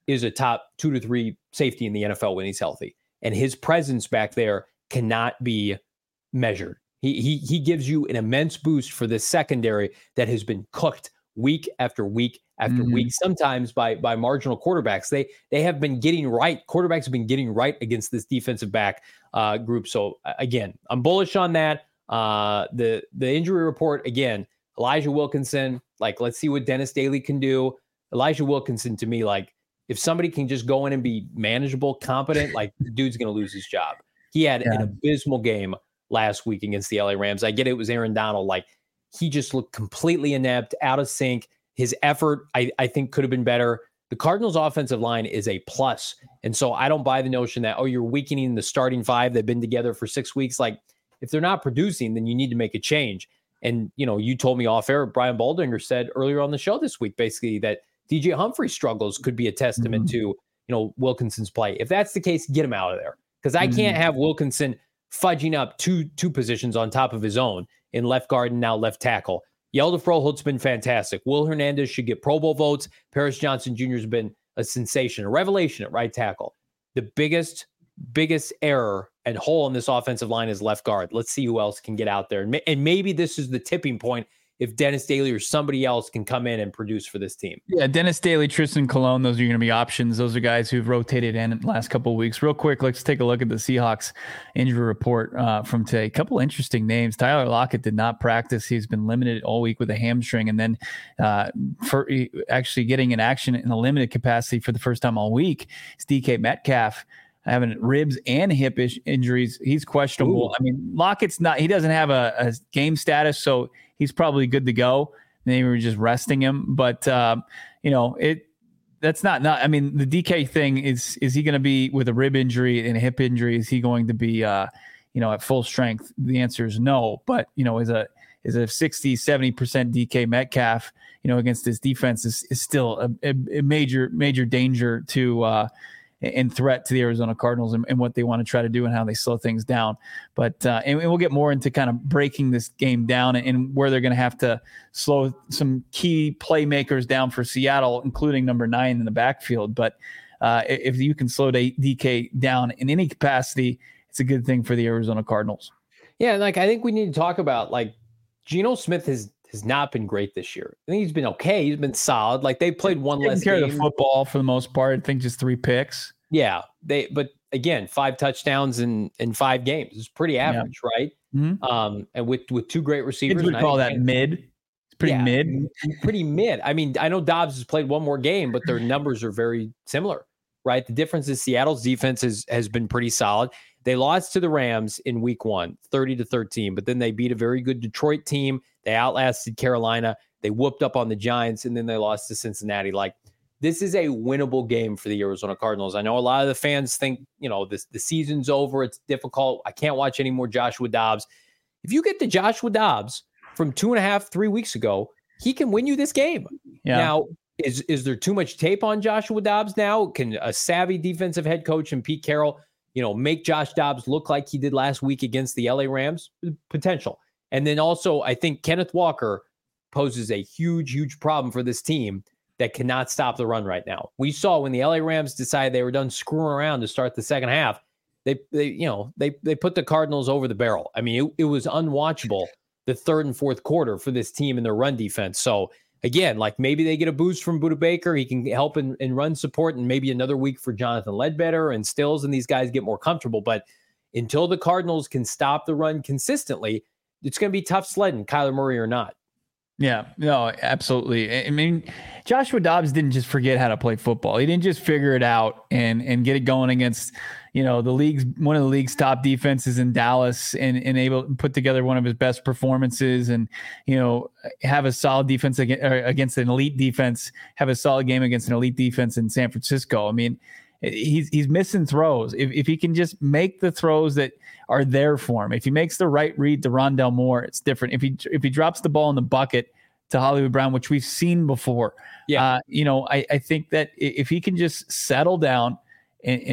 is a top two to three safety in the N F L when he's healthy. And his presence back there cannot be measured. He he he gives you an immense boost for this secondary that has been cooked week after week after mm-hmm. week, sometimes by by marginal quarterbacks. They they have been getting right. Quarterbacks have been getting right against this defensive back uh, group. So again, I'm bullish on that. Uh, the the injury report again, Elijah Wilkinson. Like, let's see what Dennis Daly can do. Elijah Wilkinson, to me, like, if somebody can just go in and be manageable, competent, like, the dude's going to lose his job. He had yeah. an abysmal game last week against the L A Rams. I get it, it was Aaron Donald. Like, he just looked completely inept, out of sync. His effort, I, I think, could have been better. The Cardinals' offensive line is a plus. And so I don't buy the notion that, oh, you're weakening the starting five. They've been together for six weeks. Like, if they're not producing, then you need to make a change. And, you know, you told me off air, Brian Baldinger said earlier on the show this week, basically, that D J Humphrey's struggles could be a testament mm-hmm. to, you know, Wilkinson's play. If that's the case, get him out of there. Because I mm-hmm. can't have Wilkinson fudging up two two positions on top of his own in left guard and now left tackle. Yelda Frohold's been fantastic. Will Hernandez should get Pro Bowl votes. Paris Johnson Junior has been a sensation, a revelation at right tackle. The biggest, biggest error and hole in this offensive line is left guard. Let's see who else can get out there. And, may, and maybe this is the tipping point if Dennis Daly or somebody else can come in and produce for this team. Yeah, Dennis Daly, Tristan Colon, those are going to be options. Those are guys who've rotated in the last couple of weeks. Real quick, let's take a look at the Seahawks injury report uh, from today. A couple interesting names. Tyler Lockett did not practice. He's been limited all week with a hamstring, and then uh, for actually getting in action in a limited capacity for the first time all week is D K Metcalf, having ribs and hip ish injuries. He's questionable. Ooh. I mean, Lockett's not, he doesn't have a, a game status, so he's probably good to go. Maybe we're just resting him, but um, you know, it, that's not, not, I mean, the D K thing is, is he going to be with a rib injury and a hip injury? Is he going to be, uh, you know, at full strength? The answer is no, but you know, is a, is a sixty, seventy percent D K Metcalf, you know, against this defense is, is still a, a, a major, major danger to, uh, and threat to the Arizona Cardinals and, and what they want to try to do and how they slow things down. But uh, and, and we'll get more into kind of breaking this game down and, and where they're going to have to slow some key playmakers down for Seattle, including number nine in the backfield. But uh, if you can slow D K down in any capacity, it's a good thing for the Arizona Cardinals. Yeah, like I think we need to talk about, like, Geno Smith has has not been great this year. I think he's been okay. He's been solid. Like, they played one less care game. Of the football for the most part. I think just three picks. Yeah, they. But again, five touchdowns in, in five games is pretty average, yeah. right? Mm-hmm. Um, and with with two great receivers, we call that mid. It's pretty yeah, mid. Pretty mid. I mean, I know Dobbs has played one more game, but their numbers are very similar, right? The difference is Seattle's defense has has been pretty solid. They lost to the Rams in week one, thirty to thirteen, but then they beat a very good Detroit team. They outlasted Carolina. They whooped up on the Giants, and then they lost to Cincinnati. Like, this is a winnable game for the Arizona Cardinals. I know a lot of the fans think, you know, this the season's over. It's difficult. I can't watch any more Joshua Dobbs. If you get the Joshua Dobbs from two and a half, three weeks ago, he can win you this game. Yeah. Now, is, is there too much tape on Joshua Dobbs now? Can a savvy defensive head coach and Pete Carroll, you know, make Josh Dobbs look like he did last week against the L A Rams? Potential. And then also, I think Kenneth Walker poses a huge, huge problem for this team that cannot stop the run right now. We saw when the L A Rams decided they were done screwing around to start the second half, they, they you know, they they put the Cardinals over the barrel. I mean, it, it was unwatchable the third and fourth quarter for this team and their run defense. So again, like, maybe they get a boost from Budda Baker. He can help in, in run support, and maybe another week for Jonathan Ledbetter and Stills, and these guys get more comfortable. But until the Cardinals can stop the run consistently, it's going to be tough sledding, Kyler Murray or not. Yeah, no, absolutely. I mean, Joshua Dobbs didn't just forget how to play football. He didn't just figure it out and and get it going against, you know, the league's one of the league's top defenses in Dallas, and, and able to put together one of his best performances and, you know, have a solid defense against, against an elite defense, have a solid game against an elite defense in San Francisco. I mean, he's he's missing throws. If if he can just make the throws that are there for him, if he makes the right read to Rondale Moore, it's different. If he if he drops the ball in the bucket to Hollywood Brown, which we've seen before, yeah, uh, you know, I, I think that if he can just settle down and, and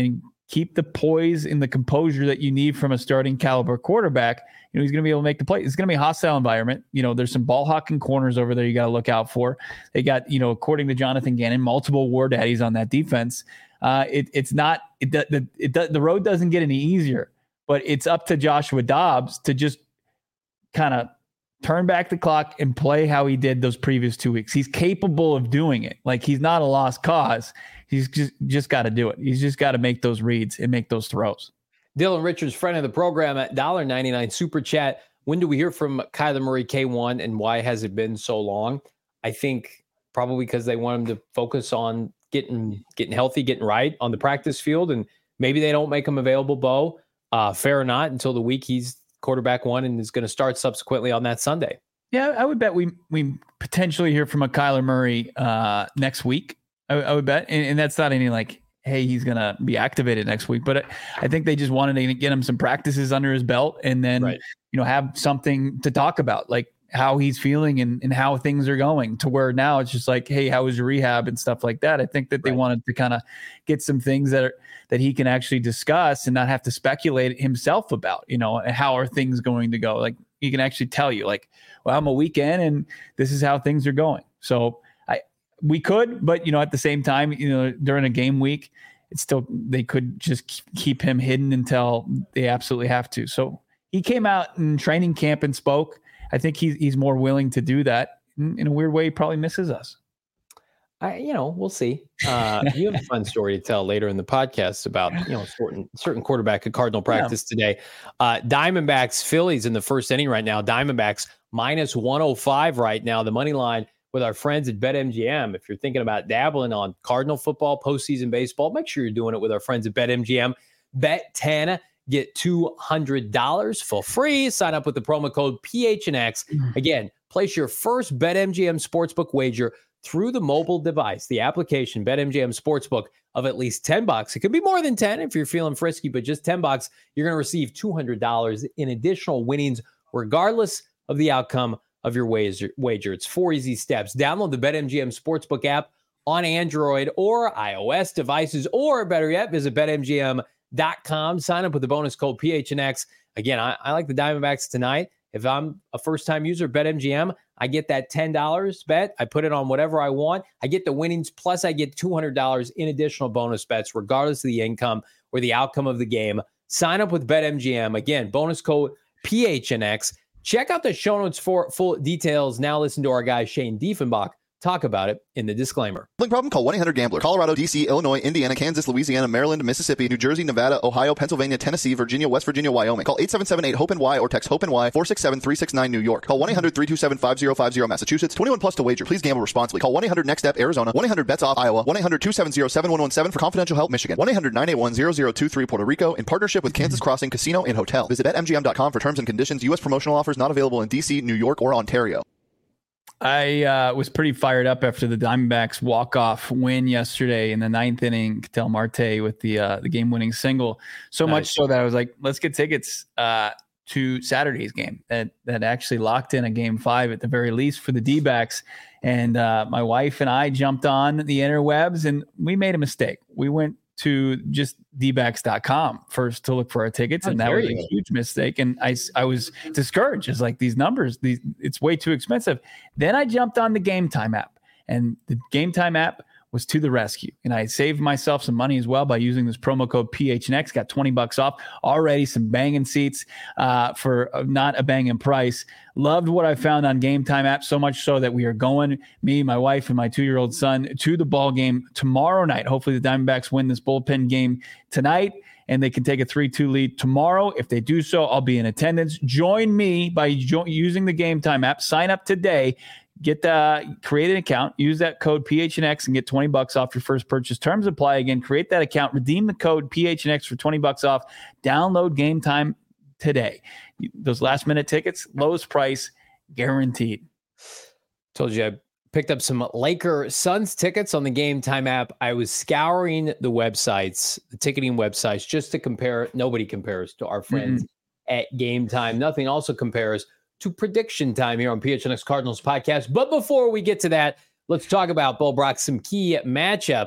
keep the poise and the composure that you need from a starting caliber quarterback, you know, he's going to be able to make the play. It's going to be a hostile environment. You know, there's some ball hawking corners over there you got to look out for. They got, you know, according to Jonathan Gannon, multiple war daddies on that defense. Uh, it, it's not, it, the, it, the road doesn't get any easier, but it's up to Joshua Dobbs to just kind of turn back the clock and play how he did those previous two weeks. He's capable of doing it. Like, he's not a lost cause. He's just, just got to do it. He's just got to make those reads and make those throws. Dylan Richards, friend of the program at one dollar ninety-nine Super Chat. When do we hear from Kyler Murray K one, and why has it been so long? I think probably because they want him to focus on getting getting healthy, getting right on the practice field, and maybe they don't make him available, Bo, uh, fair or not, until the week he's quarterback one and is going to start subsequently on that Sunday. Yeah, I would bet we we potentially hear from a Kyler Murray uh, next week. I, I would bet, and, and that's not any like, hey, he's going to be activated next week. But I, I think they just wanted to get him some practices under his belt, and then right. you know, have something to talk about, like how he's feeling and, and how things are going, to where now it's just like, hey, how was your rehab and stuff like that. I think that they right. wanted to kind of get some things that are, that he can actually discuss and not have to speculate himself about, you know, how are things going to go. Like, he can actually tell you, like, well, I'm a weekend and this is how things are going. So I, we could, but you know, at the same time, you know, during a game week, it's still, they could just keep him hidden until they absolutely have to. So he came out in training camp and spoke. I think he's, he's more willing to do that. In, in a weird way, he probably misses us. I, you know, we'll see. Uh, you have a fun story to tell later in the podcast about, you know, certain certain quarterback at Cardinal practice yeah. today. Uh, Diamondbacks, Phillies in the first inning right now. Diamondbacks minus one oh five right now. The money line with our friends at BetMGM. If you're thinking about dabbling on Cardinal football, postseason baseball, make sure you're doing it with our friends at BetMGM. Bet ten, get two hundred dollars for free. Sign up with the promo code P H N X. Again, place your first BetMGM Sportsbook wager through the mobile device, the application BetMGM Sportsbook, of at least ten bucks. It could be more than ten if you're feeling frisky, but just ten bucks, you're going to receive two hundred dollars in additional winnings, regardless of the outcome of your wager. It's four easy steps. Download the BetMGM Sportsbook app on Android or iOS devices, or better yet, visit Bet M G M dot com. Sign up with the bonus code P H N X. Again, I, I like the Diamondbacks tonight. If I'm a first-time user of BetMGM, I get that ten dollars bet. I put it on whatever I want. I get the winnings, plus I get two hundred dollars in additional bonus bets, regardless of the income or the outcome of the game. Sign up with BetMGM. Again, bonus code P H N X. Check out the show notes for full details. Now listen to our guy, Shane Diefenbach, talk about it in the disclaimer. Gambling problem? Call one eight hundred gambler. Colorado, D C, Illinois, Indiana, Kansas, Louisiana, Maryland, Mississippi, New Jersey, Nevada, Ohio, Pennsylvania, Tennessee, Virginia, West Virginia, Wyoming. Call eight seven seven eight hope N Y or text HOPE-NY four six seven three six nine New York. Call one eight hundred three two seven five zero five zero Massachusetts. twenty-one plus to wager. Please gamble responsibly. Call one eight hundred next step Arizona. one eight hundred bets off Iowa. one eight hundred two seven zero seven one one seven for confidential help Michigan. one eight hundred nine eight one zero zero two three Puerto Rico in partnership with Kansas Crossing Casino and Hotel. Visit Bet M G M dot com for terms and conditions. U S promotional offers not available in D C, New York, or Ontario. I uh, was pretty fired up after the Diamondbacks walk-off win yesterday in the ninth inning. Ketel Marte with the uh, the game-winning single. So nice. Much so that I was like, let's get tickets uh, to Saturday's game. That that actually locked in a game five at the very least for the D-backs. And uh, my wife and I jumped on the interwebs, and we made a mistake. We went to just D backs dot com first to look for our tickets. And that was a huge mistake. And I, I was discouraged. It's like, these numbers, these, it's way too expensive. Then I jumped on the Game Time app, and the Game Time app was to the rescue. And I saved myself some money as well by using this promo code P H N X, got twenty bucks off already, some banging seats uh, for not a banging price. Loved what I found on Game Time app, so much so that we are going, me, my wife, and my two-year-old son, to the ball game tomorrow night. Hopefully the Diamondbacks win this bullpen game tonight, and they can take a three two lead tomorrow. If they do so, I'll be in attendance. Join me by jo- using the Game Time app. Sign up today. Get the create an account, use that code P H N X and get twenty bucks off your first purchase. Terms apply. Again, create that account, redeem the code P H N X for twenty bucks off. Download Game Time today. Those last minute tickets, lowest price guaranteed. Told you I picked up some Laker Suns tickets on the Game Time app. I was scouring the websites, the ticketing websites, just to compare. Nobody compares to our friends mm-hmm. at Game Time. Nothing also compares to Prediction Time here on P H N X Cardinals podcast. But before we get to that, let's talk about, Bo Brock, some key matchups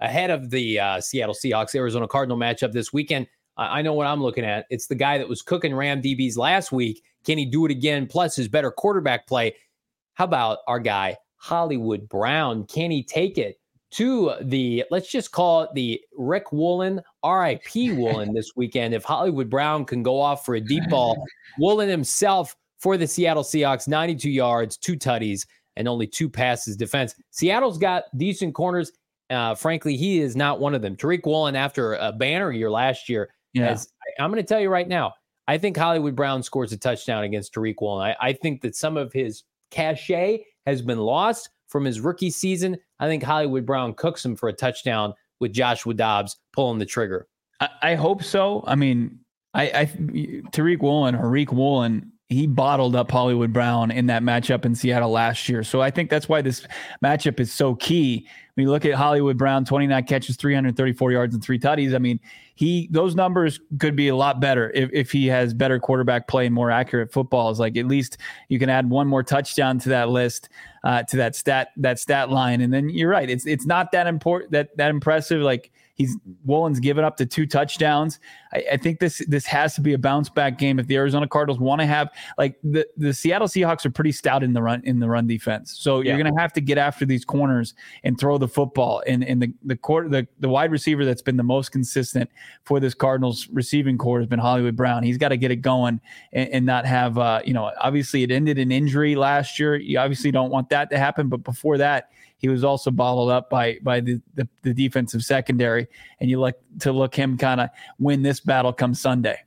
ahead of the uh, Seattle Seahawks Arizona Cardinal matchup this weekend. I know what I'm looking at. It's the guy that was cooking Ram D Bs last week. Can he do it again? Plus his better quarterback play. How about our guy, Hollywood Brown? Can he take it to the, let's just call it the Rick Woolen, R I P Woolen this weekend? If Hollywood Brown can go off for a deep ball, Woolen himself for the Seattle Seahawks, ninety-two yards, two tutties, and only two passes defense. Seattle's got decent corners. Uh, frankly, he is not one of them. Tariq Woolen, after a banner year last year, Yeah. As, I'm going to tell you right now, I think Hollywood Brown scores a touchdown against Tariq Woolen. I, I think that some of his cachet has been lost from his rookie season. I think Hollywood Brown cooks him for a touchdown with Joshua Dobbs pulling the trigger. I, I hope so. I mean, I, I Tariq Woolen or Riq Woolen, he bottled up Hollywood Brown in that matchup in Seattle last year. So I think that's why this matchup is so key. When you look at Hollywood Brown, twenty-nine catches, three hundred thirty-four yards, and three tutties. I mean, he those numbers could be a lot better if, if he has better quarterback play and more accurate footballs. Like, at least you can add one more touchdown to that list, uh, to that stat that stat line. And then you're right, it's it's not that important, that that impressive. Like, he's Woolen's given up to two touchdowns. I, I think this this has to be a bounce back game if the Arizona Cardinals want to have, like, the, the Seattle Seahawks are pretty stout in the run in the run defense. So yeah. You're going to have to get after these corners and throw the football. And and the the court the, the wide receiver that's been the most consistent for this Cardinals receiving core has been Hollywood Brown. He's got to get it going and, and not have uh, you know, obviously it ended in injury last year. You obviously don't want that to happen, but before that, he was also bottled up by by the, the, the defensive secondary, and you like to look him kind of win this battle come Sunday.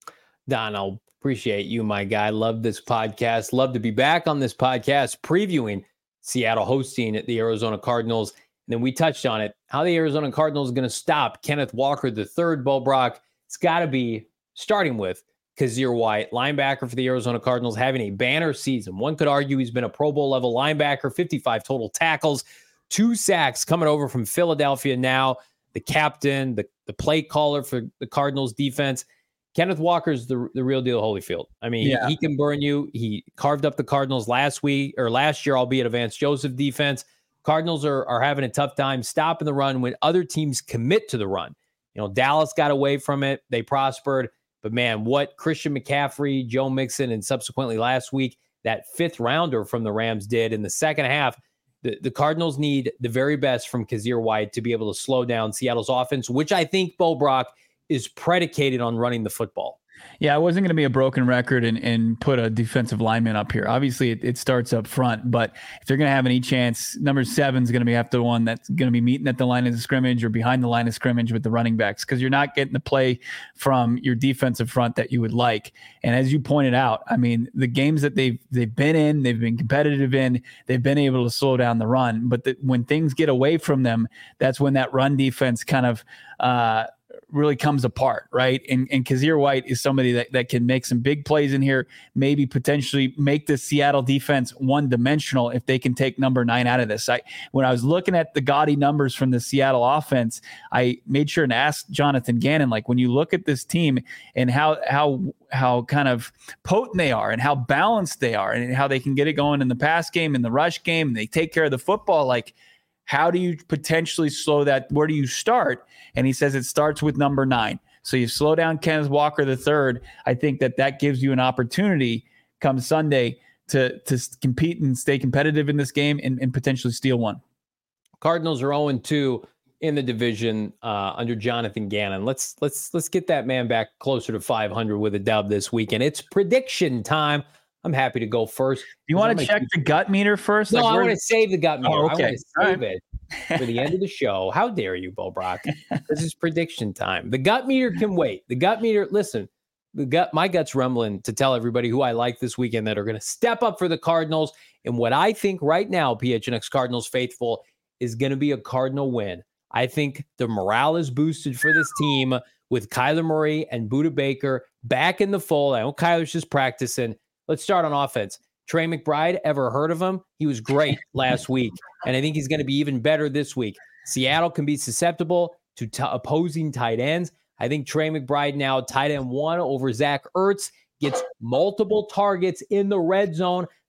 Donald, appreciate you, my guy. Love this podcast. Love to be back on this podcast previewing Seattle hosting the Arizona Cardinals. And then we touched on it, how the Arizona Cardinals are going to stop Kenneth Walker the third. Bo Brock, it's got to be starting with Kazir White, linebacker for the Arizona Cardinals, having a banner season. One could argue he's been a Pro Bowl level linebacker, fifty-five total tackles, two sacks coming over from Philadelphia now, the captain, the, the play caller for the Cardinals defense. Kenneth Walker's the, the real deal Holyfield. I mean, yeah. he, he can burn you. He carved up the Cardinals last week or last year, albeit a Vance Joseph defense. Cardinals are, are having a tough time stopping the run when other teams commit to the run. You know, Dallas got away from it. They prospered. But, man, what Christian McCaffrey, Joe Mixon, and subsequently last week, that fifth rounder from the Rams did in the second half, the, the Cardinals need the very best from Kazir White to be able to slow down Seattle's offense, which I think, Bo Brock, is predicated on running the football. Yeah, I wasn't going to be a broken record and, and put a defensive lineman up here. Obviously, it, it starts up front, but if they're going to have any chance, number seven is going to be after the one that's going to be meeting at the line of scrimmage or behind the line of scrimmage with the running backs, because you're not getting the play from your defensive front that you would like. And as you pointed out, I mean, the games that they've they've been in, they've been competitive in, they've been able to slow down the run. But the, when things get away from them, that's when that run defense kind of uh, – really comes apart, right? And and Kazir White is somebody that, that can make some big plays in here, maybe potentially make the Seattle defense one-dimensional if they can take number nine out of this. I, when I was looking at the gaudy numbers from the Seattle offense, I made sure to ask Jonathan Gannon, like, when you look at this team and how how how kind of potent they are and how balanced they are and how they can get it going in the pass game, in the rush game, and they take care of the football, like, how do you potentially slow that? Where do you start? And he says it starts with number nine. So you slow down Kenneth Walker the third. I think that that gives you an opportunity come Sunday to, to compete and stay competitive in this game and, and potentially steal one. Cardinals are oh and two in the division uh, under Jonathan Gannon. Let's let's let's get that man back closer to five hundred with a dub this weekend. It's prediction time. I'm happy to go first. Do you want to check the gut meter first? No, like I want to save the gut meter. Oh, okay. I want to save right. it for the end of the show. How dare you, Bo Brock? This is prediction time. The gut meter can wait. The gut meter, listen, the gut, my gut's rumbling to tell everybody who I like this weekend that are going to step up for the Cardinals. And what I think right now, P H N X Cardinals faithful, is going to be a Cardinal win. I think the morale is boosted for this team with Kyler Murray and Budda Baker back in the fold. I know Kyler's just practicing. Let's start on offense. Trey McBride, ever heard of him? He was great last week, and I think he's going to be even better this week. Seattle can be susceptible to t- opposing tight ends. I think Trey McBride now tight end one over Zach Ertz, gets multiple targets in the red zone.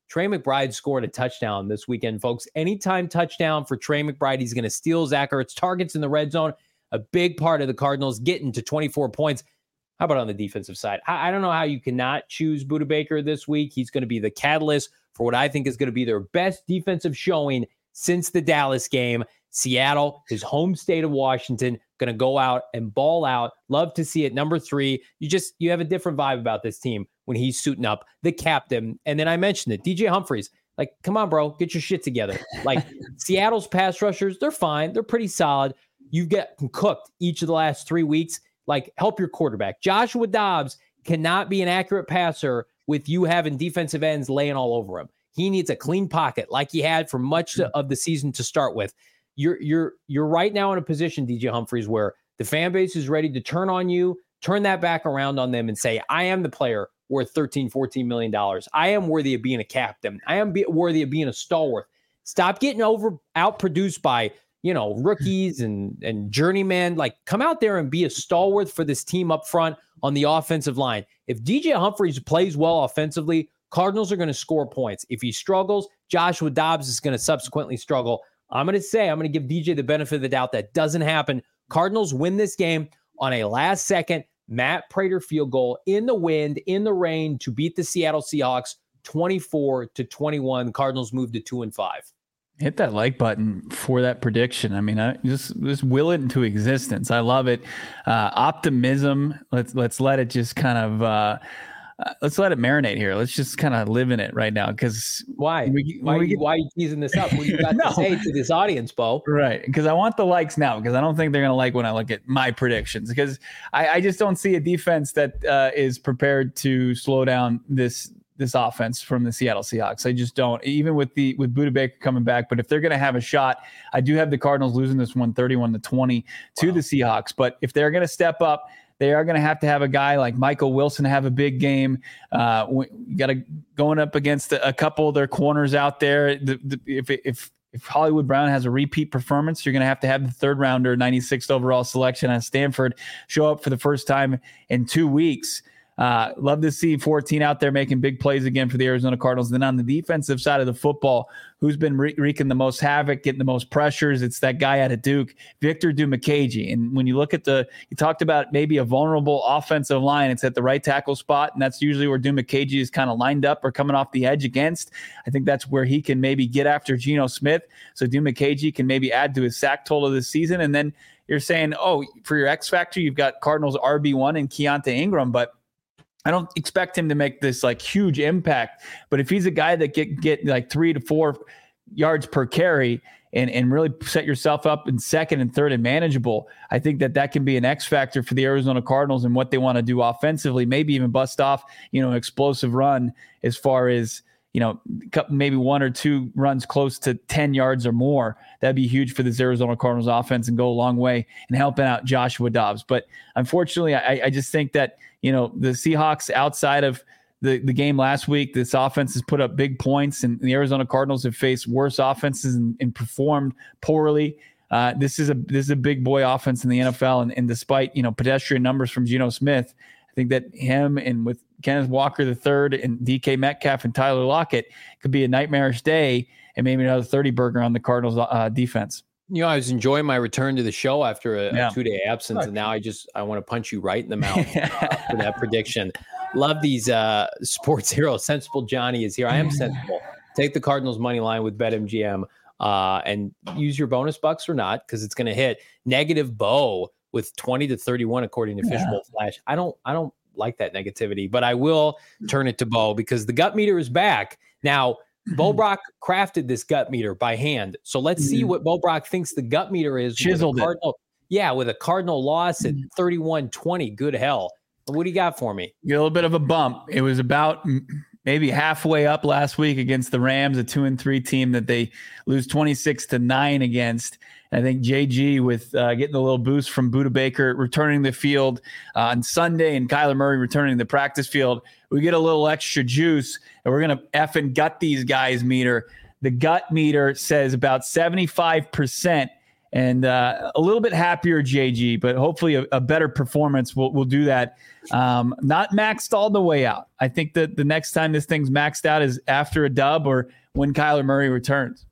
Trey McBride scored a touchdown this weekend, folks. Anytime touchdown for Trey McBride, he's going to steal Zach Ertz. Targets in the red zone, a big part of the Cardinals getting to twenty-four points. How about on the defensive side? I, I don't know how you cannot choose Budda Baker this week. He's going to be the catalyst for what I think is going to be their best defensive showing since the Dallas game. Seattle, his home state of Washington, going to go out and ball out. Love to see it. Number three, you just, you have a different vibe about this team when he's suiting up, the captain. And then I mentioned it, D J Humphries. Like, come on, bro, get your shit together. Like, Seattle's pass rushers, they're fine. They're pretty solid. You've gotten cooked each of the last three weeks. Like, help your quarterback. Joshua Dobbs cannot be an accurate passer with you having defensive ends laying all over him. He needs a clean pocket like he had for much of the season to start with. You're you're you're right now in a position, D J Humphries, where the fan base is ready to turn on you, turn that back around on them and say, I am the player worth thirteen, fourteen million dollars. I am worthy of being a captain. I am be- worthy of being a stalwart. Stop getting over outproduced by, you know, rookies and, and journeymen. Like, come out there and be a stalwart for this team up front on the offensive line. If D J Humphries plays well offensively, Cardinals are going to score points. If he struggles, Joshua Dobbs is going to subsequently struggle. I'm going to say, I'm going to give D J the benefit of the doubt. That doesn't happen. Cardinals win this game on a last second Matt Prater field goal in the wind, in the rain, to beat the Seattle Seahawks twenty-four to twenty-one. Cardinals move to two and five. Hit that like button for that prediction. I mean, I just just will it into existence. I love it. Uh, optimism. Let's let's let it just kind of uh, uh, let's let it marinate here. Let's just kind of live in it right now. Because why? We, why? we get, why are you teasing this up? What do you got no. to say to this audience, Bo? Right. Because I want the likes now. Because I don't think they're going to like when I look at my predictions. Because I, I just don't see a defense that uh, is prepared to slow down this. this offense from the Seattle Seahawks. I just don't, even with the, with Budda Baker coming back, but if they're going to have a shot, I do have the Cardinals losing this one thirty-one to twenty to wow. the Seahawks. But if they're going to step up, they are going to have to have a guy like Michael Wilson have a big game. Uh, you got to going up against a, a couple of their corners out there. The, the, if, if, if Hollywood Brown has a repeat performance, you're going to have to have the third rounder, ninety-sixth overall selection at Stanford show up for the first time in two weeks. Uh, love to see fourteen out there making big plays again for the Arizona Cardinals. Then on the defensive side of the football, who's been re- wreaking the most havoc, getting the most pressures? It's that guy out of Duke, Victor Dimukeje. And when you look at the, you talked about maybe a vulnerable offensive line, it's at the right tackle spot, and that's usually where Dimukeje is kind of lined up or coming off the edge against. I think that's where he can maybe get after Geno Smith. So Dimukeje can maybe add to his sack total this season. And then you're saying, oh, for your X factor, you've got Cardinals R B one and Keontae Ingram, but I don't expect him to make this like huge impact, but if he's a guy that get get like three to four yards per carry and and really set yourself up in second and third and manageable, I think that that can be an X factor for the Arizona Cardinals and what they want to do offensively. Maybe even bust off, you know, an explosive run as far as, you know, maybe one or two runs close to ten yards or more. That'd be huge for this Arizona Cardinals offense and go a long way in helping out Joshua Dobbs. But unfortunately, I, I just think that, you know, the Seahawks outside of the, the game last week, this offense has put up big points, and the Arizona Cardinals have faced worse offenses and, and performed poorly. Uh, this is a this is a big boy offense in the N F L, and, and despite, you know, pedestrian numbers from Geno Smith, I think that him and with Kenneth Walker the third and D K Metcalf and Tyler Lockett could be a nightmarish day, and maybe another thirty burger on the Cardinals uh, defense. You know, I was enjoying my return to the show after a, yeah. a two-day absence, right. and now I just I want to punch you right in the mouth uh, for that prediction. Love these uh, sports heroes. Sensible Johnny is here. I am sensible. Take the Cardinals money line with BetMGM uh, and use your bonus bucks or not, because it's going to hit. Negative Bo with twenty to thirty-one according to yeah. Fishbowl Flash. I don't I don't like that negativity, but I will turn it to Bo because the gut meter is back now. Bo Brock crafted this gut meter by hand. So let's see what Bo Brock thinks the gut meter is. Chiseled with Cardinal, it. Yeah, with a Cardinal loss at thirty-one twenty. Good hell. What do you got for me? Get a little bit of a bump. It was about maybe halfway up last week against the Rams, a two and three team that they lose twenty-six to nine against. I think J G with uh, getting a little boost from Budda Baker returning the field uh, on Sunday and Kyler Murray returning the practice field. We get a little extra juice, and we're going to effing gut these guys meter. The gut meter says about seventy-five percent and uh, a little bit happier J G, but hopefully a, a better performance will will do that. Um, not maxed all the way out. I think that the next time this thing's maxed out is after a dub or when Kyler Murray returns.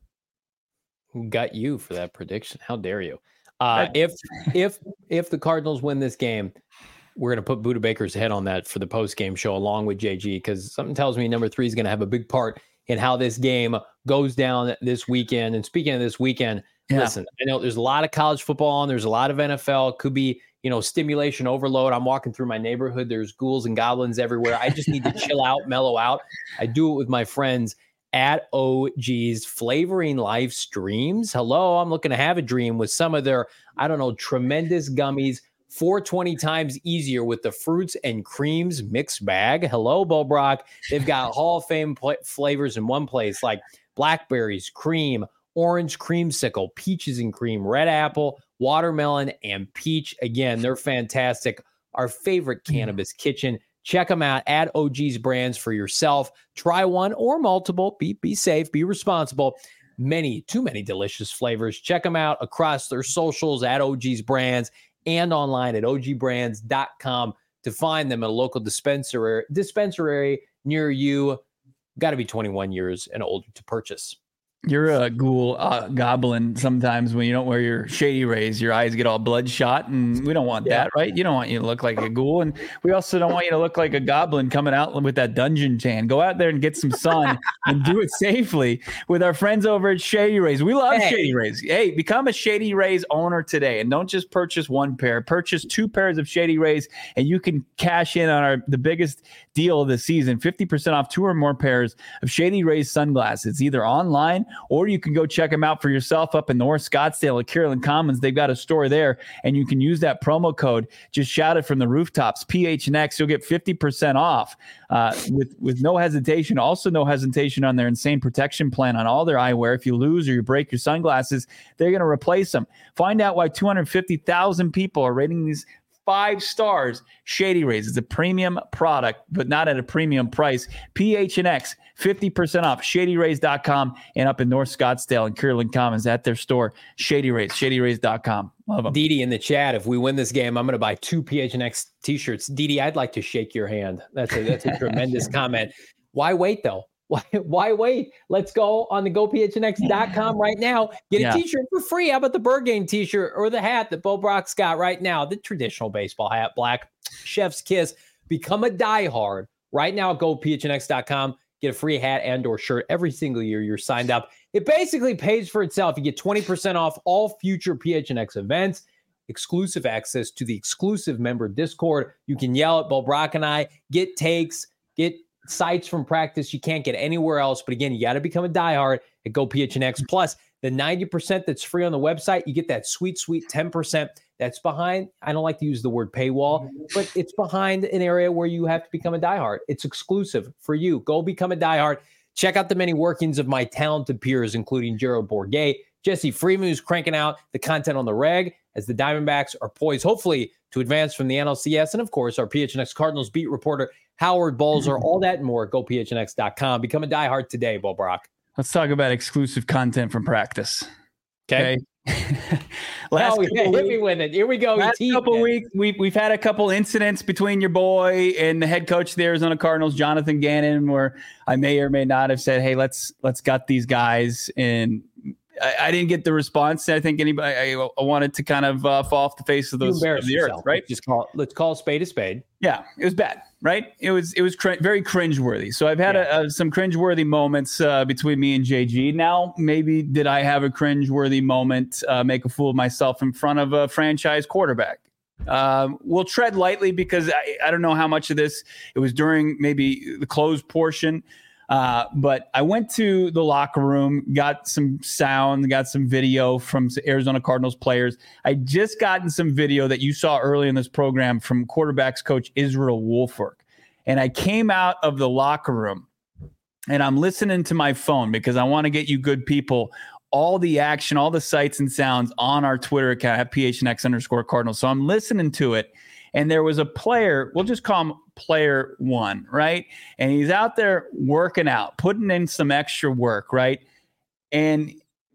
Who got you for that prediction? How dare you? Uh, if if if the Cardinals win this game, we're going to put Buda Baker's head on that for the post-game show along with J G, because something tells me number three is going to have a big part in how this game goes down this weekend. And speaking of this weekend, yeah. listen, I know there's a lot of college football on. There's a lot of N F L. Could be, you know, stimulation overload. I'm walking through my neighborhood. There's ghouls and goblins everywhere. I just need to chill out, mellow out. I do it with my friends at O G's Flavoring Life Streams. Hello, I'm looking to have a dream with some of their, I don't know, tremendous gummies. four hundred twenty times easier with the fruits and creams mixed bag. Hello, Bo Brock. They've got Hall of Fame pl- flavors in one place, like blackberries, cream, orange creamsicle, peaches and cream, red apple, watermelon, and peach. Again, they're fantastic. Our favorite cannabis kitchen. Check them out at O G's Brands for yourself. Try one or multiple. Be, be safe. Be responsible. Many, too many delicious flavors. Check them out across their socials at O G's Brands and online at O G brands dot com to find them at a local dispensary, dispensary near you. Got to be twenty-one years and older to purchase. You're a ghoul uh, goblin sometimes when you don't wear your Shady Rays. Your eyes get all bloodshot, and we don't want yeah. that, right? You don't want you to look like a ghoul, and we also don't want you to look like a goblin coming out with that dungeon tan. Go out there and get some sun and do it safely with our friends over at Shady Rays. We love hey. Shady Rays. Hey, become a Shady Rays owner today, and don't just purchase one pair. Purchase two pairs of Shady Rays, and you can cash in on our the biggest deal of the season, fifty percent off two or more pairs of Shady Rays sunglasses, either online or you can go check them out for yourself up in North Scottsdale at Kierland Commons. They've got a store there, and you can use that promo code. Just shout it from the rooftops, P H N X. You'll get fifty percent off uh, with, with no hesitation. Also no hesitation on their insane protection plan on all their eyewear. If you lose or you break your sunglasses, they're going to replace them. Find out why two hundred fifty thousand people are rating these five stars. Shady Rays is a premium product, but not at a premium price. P H N X, fifty percent off, shady rays dot com, and up in North Scottsdale and Kierland Commons at their store, Shady Rays, shady rays dot com. Love them. Didi in the chat, if we win this game, I'm going to buy two P H N X t-shirts. Didi, I'd like to shake your hand. That's a, that's a tremendous comment. Why wait, though? Why, why wait? Let's go on the go P H N X dot com right now. Get a yeah. t-shirt for free. How about the Bird Game t-shirt or the hat that Bo Brock's got right now? The traditional baseball hat, black, chef's kiss. Become a diehard right now at go P H N X dot com. Get a free hat and or shirt every single year you're signed up. It basically pays for itself. You get twenty percent off all future P H N X events, exclusive access to the exclusive member Discord. You can yell at Bo Brock and I, get takes, get sites from practice you can't get anywhere else. But again, you got to become a diehard at Go P H N X. Plus, the ninety percent that's free on the website, you get that sweet, sweet ten percent that's behind. I don't like to use the word paywall, but it's behind an area where you have to become a diehard. It's exclusive for you. Go become a diehard. Check out the many workings of my talented peers, including Gerald Bourguet, Jesse Freeman, who's cranking out the content on the reg as the Diamondbacks are poised, hopefully, to advance from the N L C S. And, of course, our P H N X Cardinals beat reporter, Howard Balzer, all that and more at go P H N X dot com. Become a diehard today, Bo Brock. Let's talk about exclusive content from practice. Okay. okay? last oh, yeah, hit me with it. Here we go. Last couple it. weeks, we've, we've had a couple incidents between your boy and the head coach of the Arizona Cardinals, Jonathan Gannon, where I may or may not have said, hey, let's let's gut these guys. And I, I didn't get the response I think anybody I, I wanted to kind of uh, fall off the face of those of the earth, right? Just call let's call a spade a spade. Yeah, it was bad, right? It was it was cr- very cringeworthy. So I've had yeah. a, a, some cringeworthy moments uh, between me and J G. Now, maybe did I have a cringeworthy moment, uh, make a fool of myself in front of a franchise quarterback? Um, we'll tread lightly because I, I don't know how much of this, it was during maybe the closed portion. Uh, but I went to the locker room, got some sound, got some video from Arizona Cardinals players. I just gotten some video that you saw early in this program from quarterbacks coach Israel Wolfork. And I came out of the locker room and I'm listening to my phone because I want to get you good people all the action, all the sights and sounds on our Twitter account at P H N X underscore Cardinals. So I'm listening to it. And there was a player, we'll just call him player one, right? And he's out there working out, putting in some extra work, right? And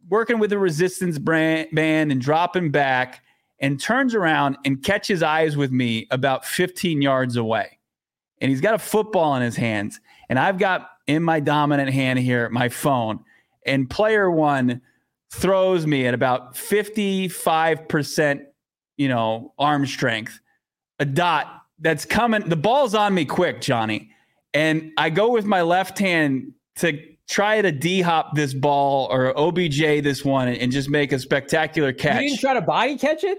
working with a resistance brand, band and dropping back, and turns around and catches eyes with me about fifteen yards away. And he's got a football in his hands. And I've got in my dominant hand here my phone. And player one throws me at about fifty-five percent, you know, arm strength, a dot that's coming. The ball's on me quick, Johnny. And I go with my left hand to try to D-hop this ball or O B J this one and just make a spectacular catch. You didn't try to body catch it?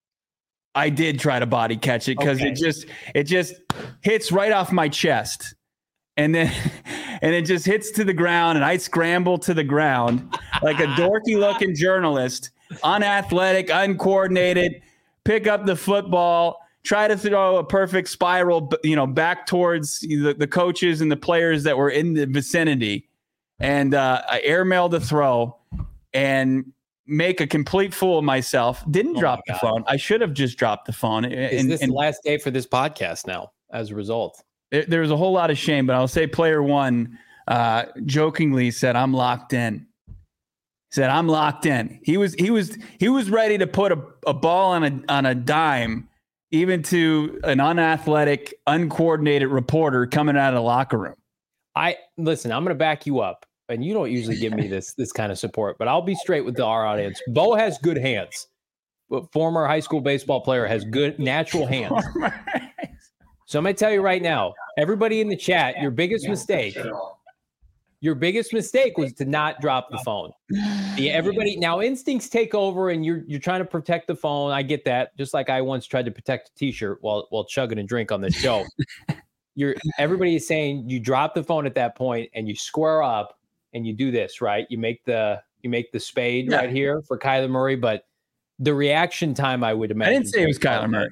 I did try to body catch it because okay. it just it just hits right off my chest. And then and it just hits to the ground, and I scramble to the ground like a dorky looking journalist, unathletic, uncoordinated, pick up the football, try to throw a perfect spiral, you know, back towards the, the coaches and the players that were in the vicinity. And uh, I airmailed the throw and make a complete fool of myself. Didn't oh drop the phone. I should have just dropped the phone. Is and, this and, the last day for this podcast now as a result? There, there was a whole lot of shame, but I'll say player one uh, jokingly said, I'm locked in. He said, I'm locked in. He was he was he was ready to put a, a ball on a on a dime, even to an unathletic, uncoordinated reporter coming out of the locker room. I listen, I'm gonna back you up. And you don't usually give me this this kind of support, but I'll be straight with the, our audience. Bo has good hands. Former high school baseball player has good natural hands. So I'm going to tell you right now, everybody in the chat, your biggest mistake, your biggest mistake was to not drop the phone. Yeah, everybody now instincts take over, and you're you're trying to protect the phone. I get that. Just like I once tried to protect a T-shirt while while chugging a drink on this show. You're everybody is saying you drop the phone at that point and you square up. And you do this, right? You make the you make the spade yeah. right here for Kyler Murray, but the reaction time, I would imagine. I didn't say it was Kyler Murray.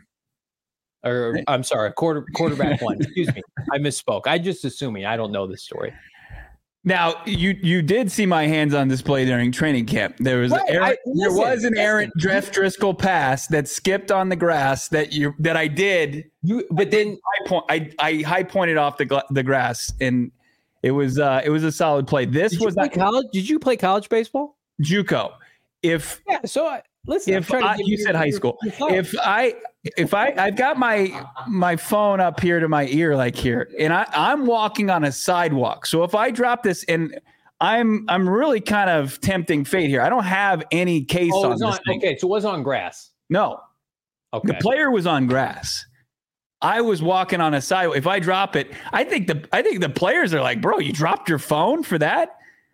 Or I'm sorry, quarter quarterback one. Excuse me, I misspoke. I just assuming I don't know this story. Now you you did see my hands on display during training camp. There was right, Aaron, I, listen, there was an Aaron Jeff Driscoll pass that skipped on the grass that you that I did. You but then I point I I high pointed off the the grass and. It was uh, it was a solid play. This Did was you play college. Did you play college baseball? JUCO. If yeah, so I, listen. If I, you, you said high school. If I if I I've got my my phone up here to my ear like here, and I I'm walking on a sidewalk. So if I drop this, and I'm I'm really kind of tempting fate here. I don't have any case oh, on, on this thing. Okay, so it was on grass. No. Okay. The player was on grass. I was walking on a sidewalk. If I drop it, I think the I think the players are like, bro, you dropped your phone for that?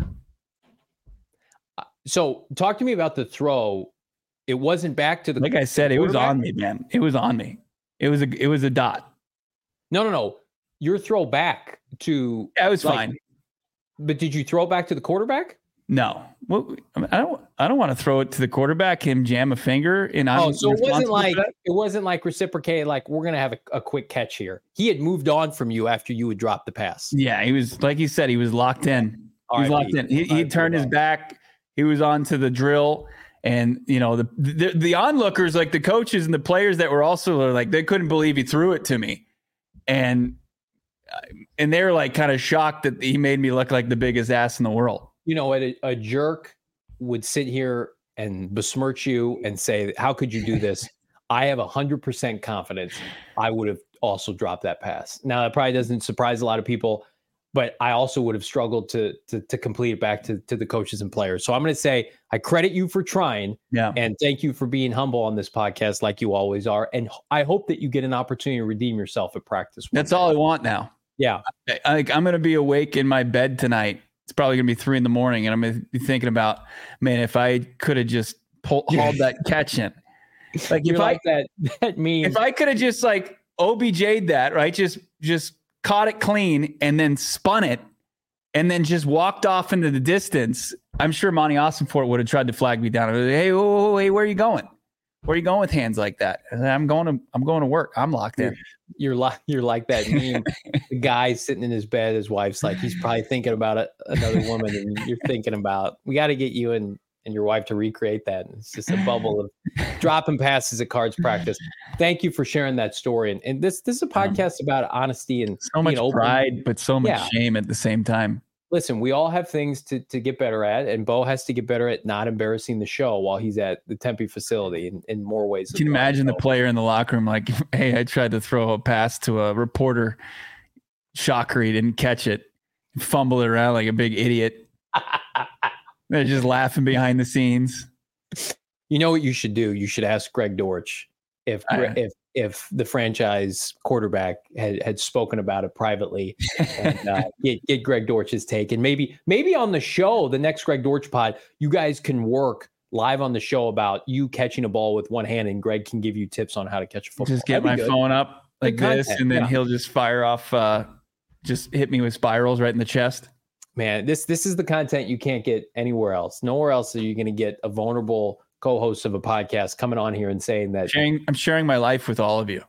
So talk to me about the throw. It wasn't back to the like I said, it was on me, man. It was on me. It was a it was a dot. No, no, no. Your throw back to yeah, it was like, fine. But did you throw it back to the quarterback? No. Well, I, mean, I don't. I don't want to throw it to the quarterback. Him jam a finger, and I'm oh, so it wasn't like it wasn't like reciprocated. Like we're gonna have a, a quick catch here. He had moved on from you after you had dropped the pass. Yeah, he was like he said. He was locked in. He was locked in. He he turned his back. He was on to the drill, and you know the, the the onlookers, like the coaches and the players that were also like they couldn't believe he threw it to me, and and they were like kind of shocked that he made me look like the biggest ass in the world. You know, a, a jerk would sit here and besmirch you and say, how could you do this? I have one hundred percent confidence I would have also dropped that pass. Now, that probably doesn't surprise a lot of people, but I also would have struggled to to, to complete it back to, to the coaches and players. So I'm going to say I credit you for trying, yeah, and thank you for being humble on this podcast like you always are. And I hope that you get an opportunity to redeem yourself at practice. That's all I want now. Yeah. I, like I'm going to be awake in my bed tonight. It's probably going to be three in the morning, and I'm going to be thinking about, man, if I could have just pulled hauled that catch in. Like You're if like I that, that means if I could have just like O B J'd that, right? Just just caught it clean and then spun it and then just walked off into the distance. I'm sure Monty Ossenfort would have tried to flag me down. Like, hey, oh, hey, where are you going? Where are you going with hands like that? And I'm going to I'm going to work. I'm locked in. You're like you're like that meme. The guy sitting in his bed, his wife's like, he's probably thinking about a, another woman, and you're thinking about, we got to get you and and your wife to recreate that. And it's just a bubble of dropping passes at cards practice. Thank you for sharing that story. And, and this this is a podcast about honesty and so much you know, pride, but so much yeah. shame at the same time. listen, we all have things to, to get better at, and Bo has to get better at not embarrassing the show while he's at the Tempe facility in, in more ways. Can you imagine the player in the locker room like, hey, I tried to throw a pass to a reporter. Shocker, he didn't catch it. Fumble it around like a big idiot. They're just laughing behind the scenes. You know what you should do? You should ask Greg Dortch if Uh, if if the franchise quarterback had, had spoken about it privately, and uh, get, get Greg Dortch's take. And maybe maybe on the show, the next Greg Dortch pod, you guys can work live on the show about you catching a ball with one hand, and Greg can give you tips on how to catch a football. Just get That'd be my good. phone up like Good this, content, and then yeah. he'll just fire off, uh, just hit me with spirals right in the chest. Man, this this is the content you can't get anywhere else. Nowhere else are you going to get a vulnerable co-host of a podcast coming on here and saying that Sharing, I'm sharing my life with all of you.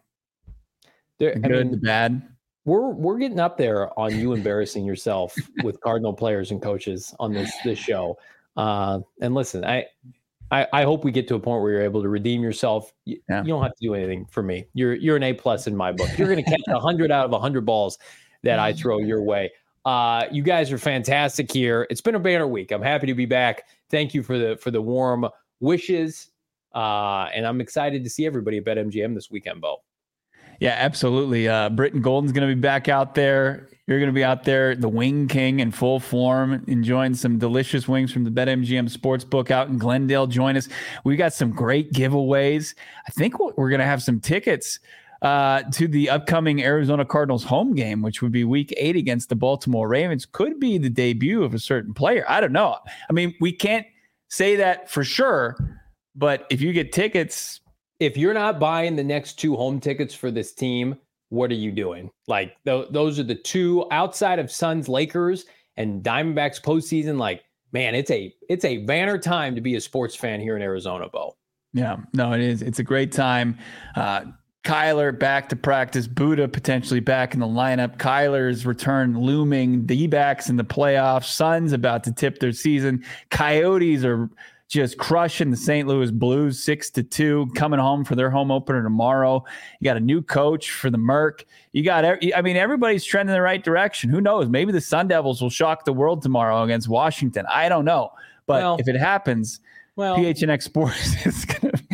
there, The I good, mean, the bad. we're we're getting up there on you embarrassing yourself with Cardinal players and coaches on this this show. Uh, and listen, I, I I hope we get to a point where you're able to redeem yourself. You, Yeah. you don't have to do anything for me. You're you're an A plus in my book. You're going to catch a hundred out of a hundred balls that I throw your way. Uh, you guys are fantastic here. It's been a banner week. I'm happy to be back. Thank you for the for the warm wishes. Uh, and I'm excited to see everybody at BetMGM this weekend, Bo. Yeah, absolutely. Uh, Britton Golden's going to be back out there. You're going to be out there, the Wing King in full form, enjoying some delicious wings from the BetMGM Sportsbook out in Glendale. Join us. We got some great giveaways. I think we're going to have some tickets uh, to the upcoming Arizona Cardinals home game, which would be week eight against the Baltimore Ravens. Could be the debut of a certain player. I don't know. I mean, we can't say that for sure, but if you get tickets, If you're not buying the next two home tickets for this team, what are you doing? Like th- those are the two outside of Suns, Lakers, and Diamondbacks postseason. Like, man, it's a it's a banner time to be a sports fan here in Arizona, Bo. yeah, no, it is. It's a great time. Uh, Kyler back to practice. Buddha potentially back in the lineup. Kyler's return looming. D-backs in the playoffs. Suns about to tip their season. Coyotes are just crushing the Saint Louis Blues six to two, coming home for their home opener tomorrow. You got a new coach for the Merc. You got, I mean, everybody's trending in the right direction. Who knows? Maybe the Sun Devils will shock the world tomorrow against Washington. I don't know. But Well, if it happens, Well, P H N X Sports is going to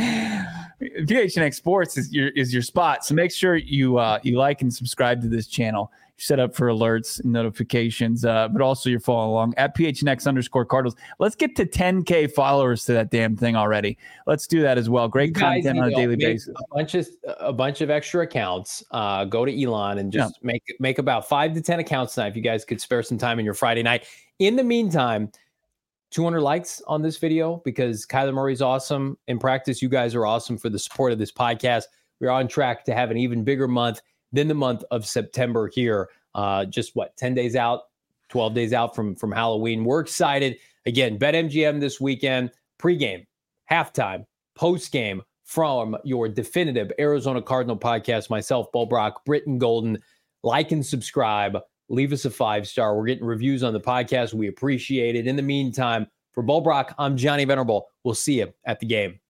P H N X Sports is your is your spot. So make sure you uh, you like and subscribe to this channel. You're set up for alerts and notifications, uh, but also you're following along at P H N X underscore Cardinals. Let's get to ten K followers to that damn thing already. Let's do that as well. Great you guys content need on a to daily make basis. A bunch of a bunch of extra accounts. Uh, go to Elon and just make make about five to ten accounts tonight. If you guys could spare some time in your Friday night. In the meantime, two hundred likes on this video because Kyler Murray's awesome in practice. You guys are awesome for the support of this podcast. We're on track to have an even bigger month than the month of September here. Uh, just what, ten days out, twelve days out from, from Halloween. We're excited. Again, BetMGM this weekend, pregame, halftime, postgame from your definitive Arizona Cardinal podcast. Myself, Bo Brock, Britton Golden. Like and subscribe. Leave us a five-star. We're getting reviews on the podcast. We appreciate it. In the meantime, for Bo Brock, I'm Johnny Venerable. We'll see you at the game.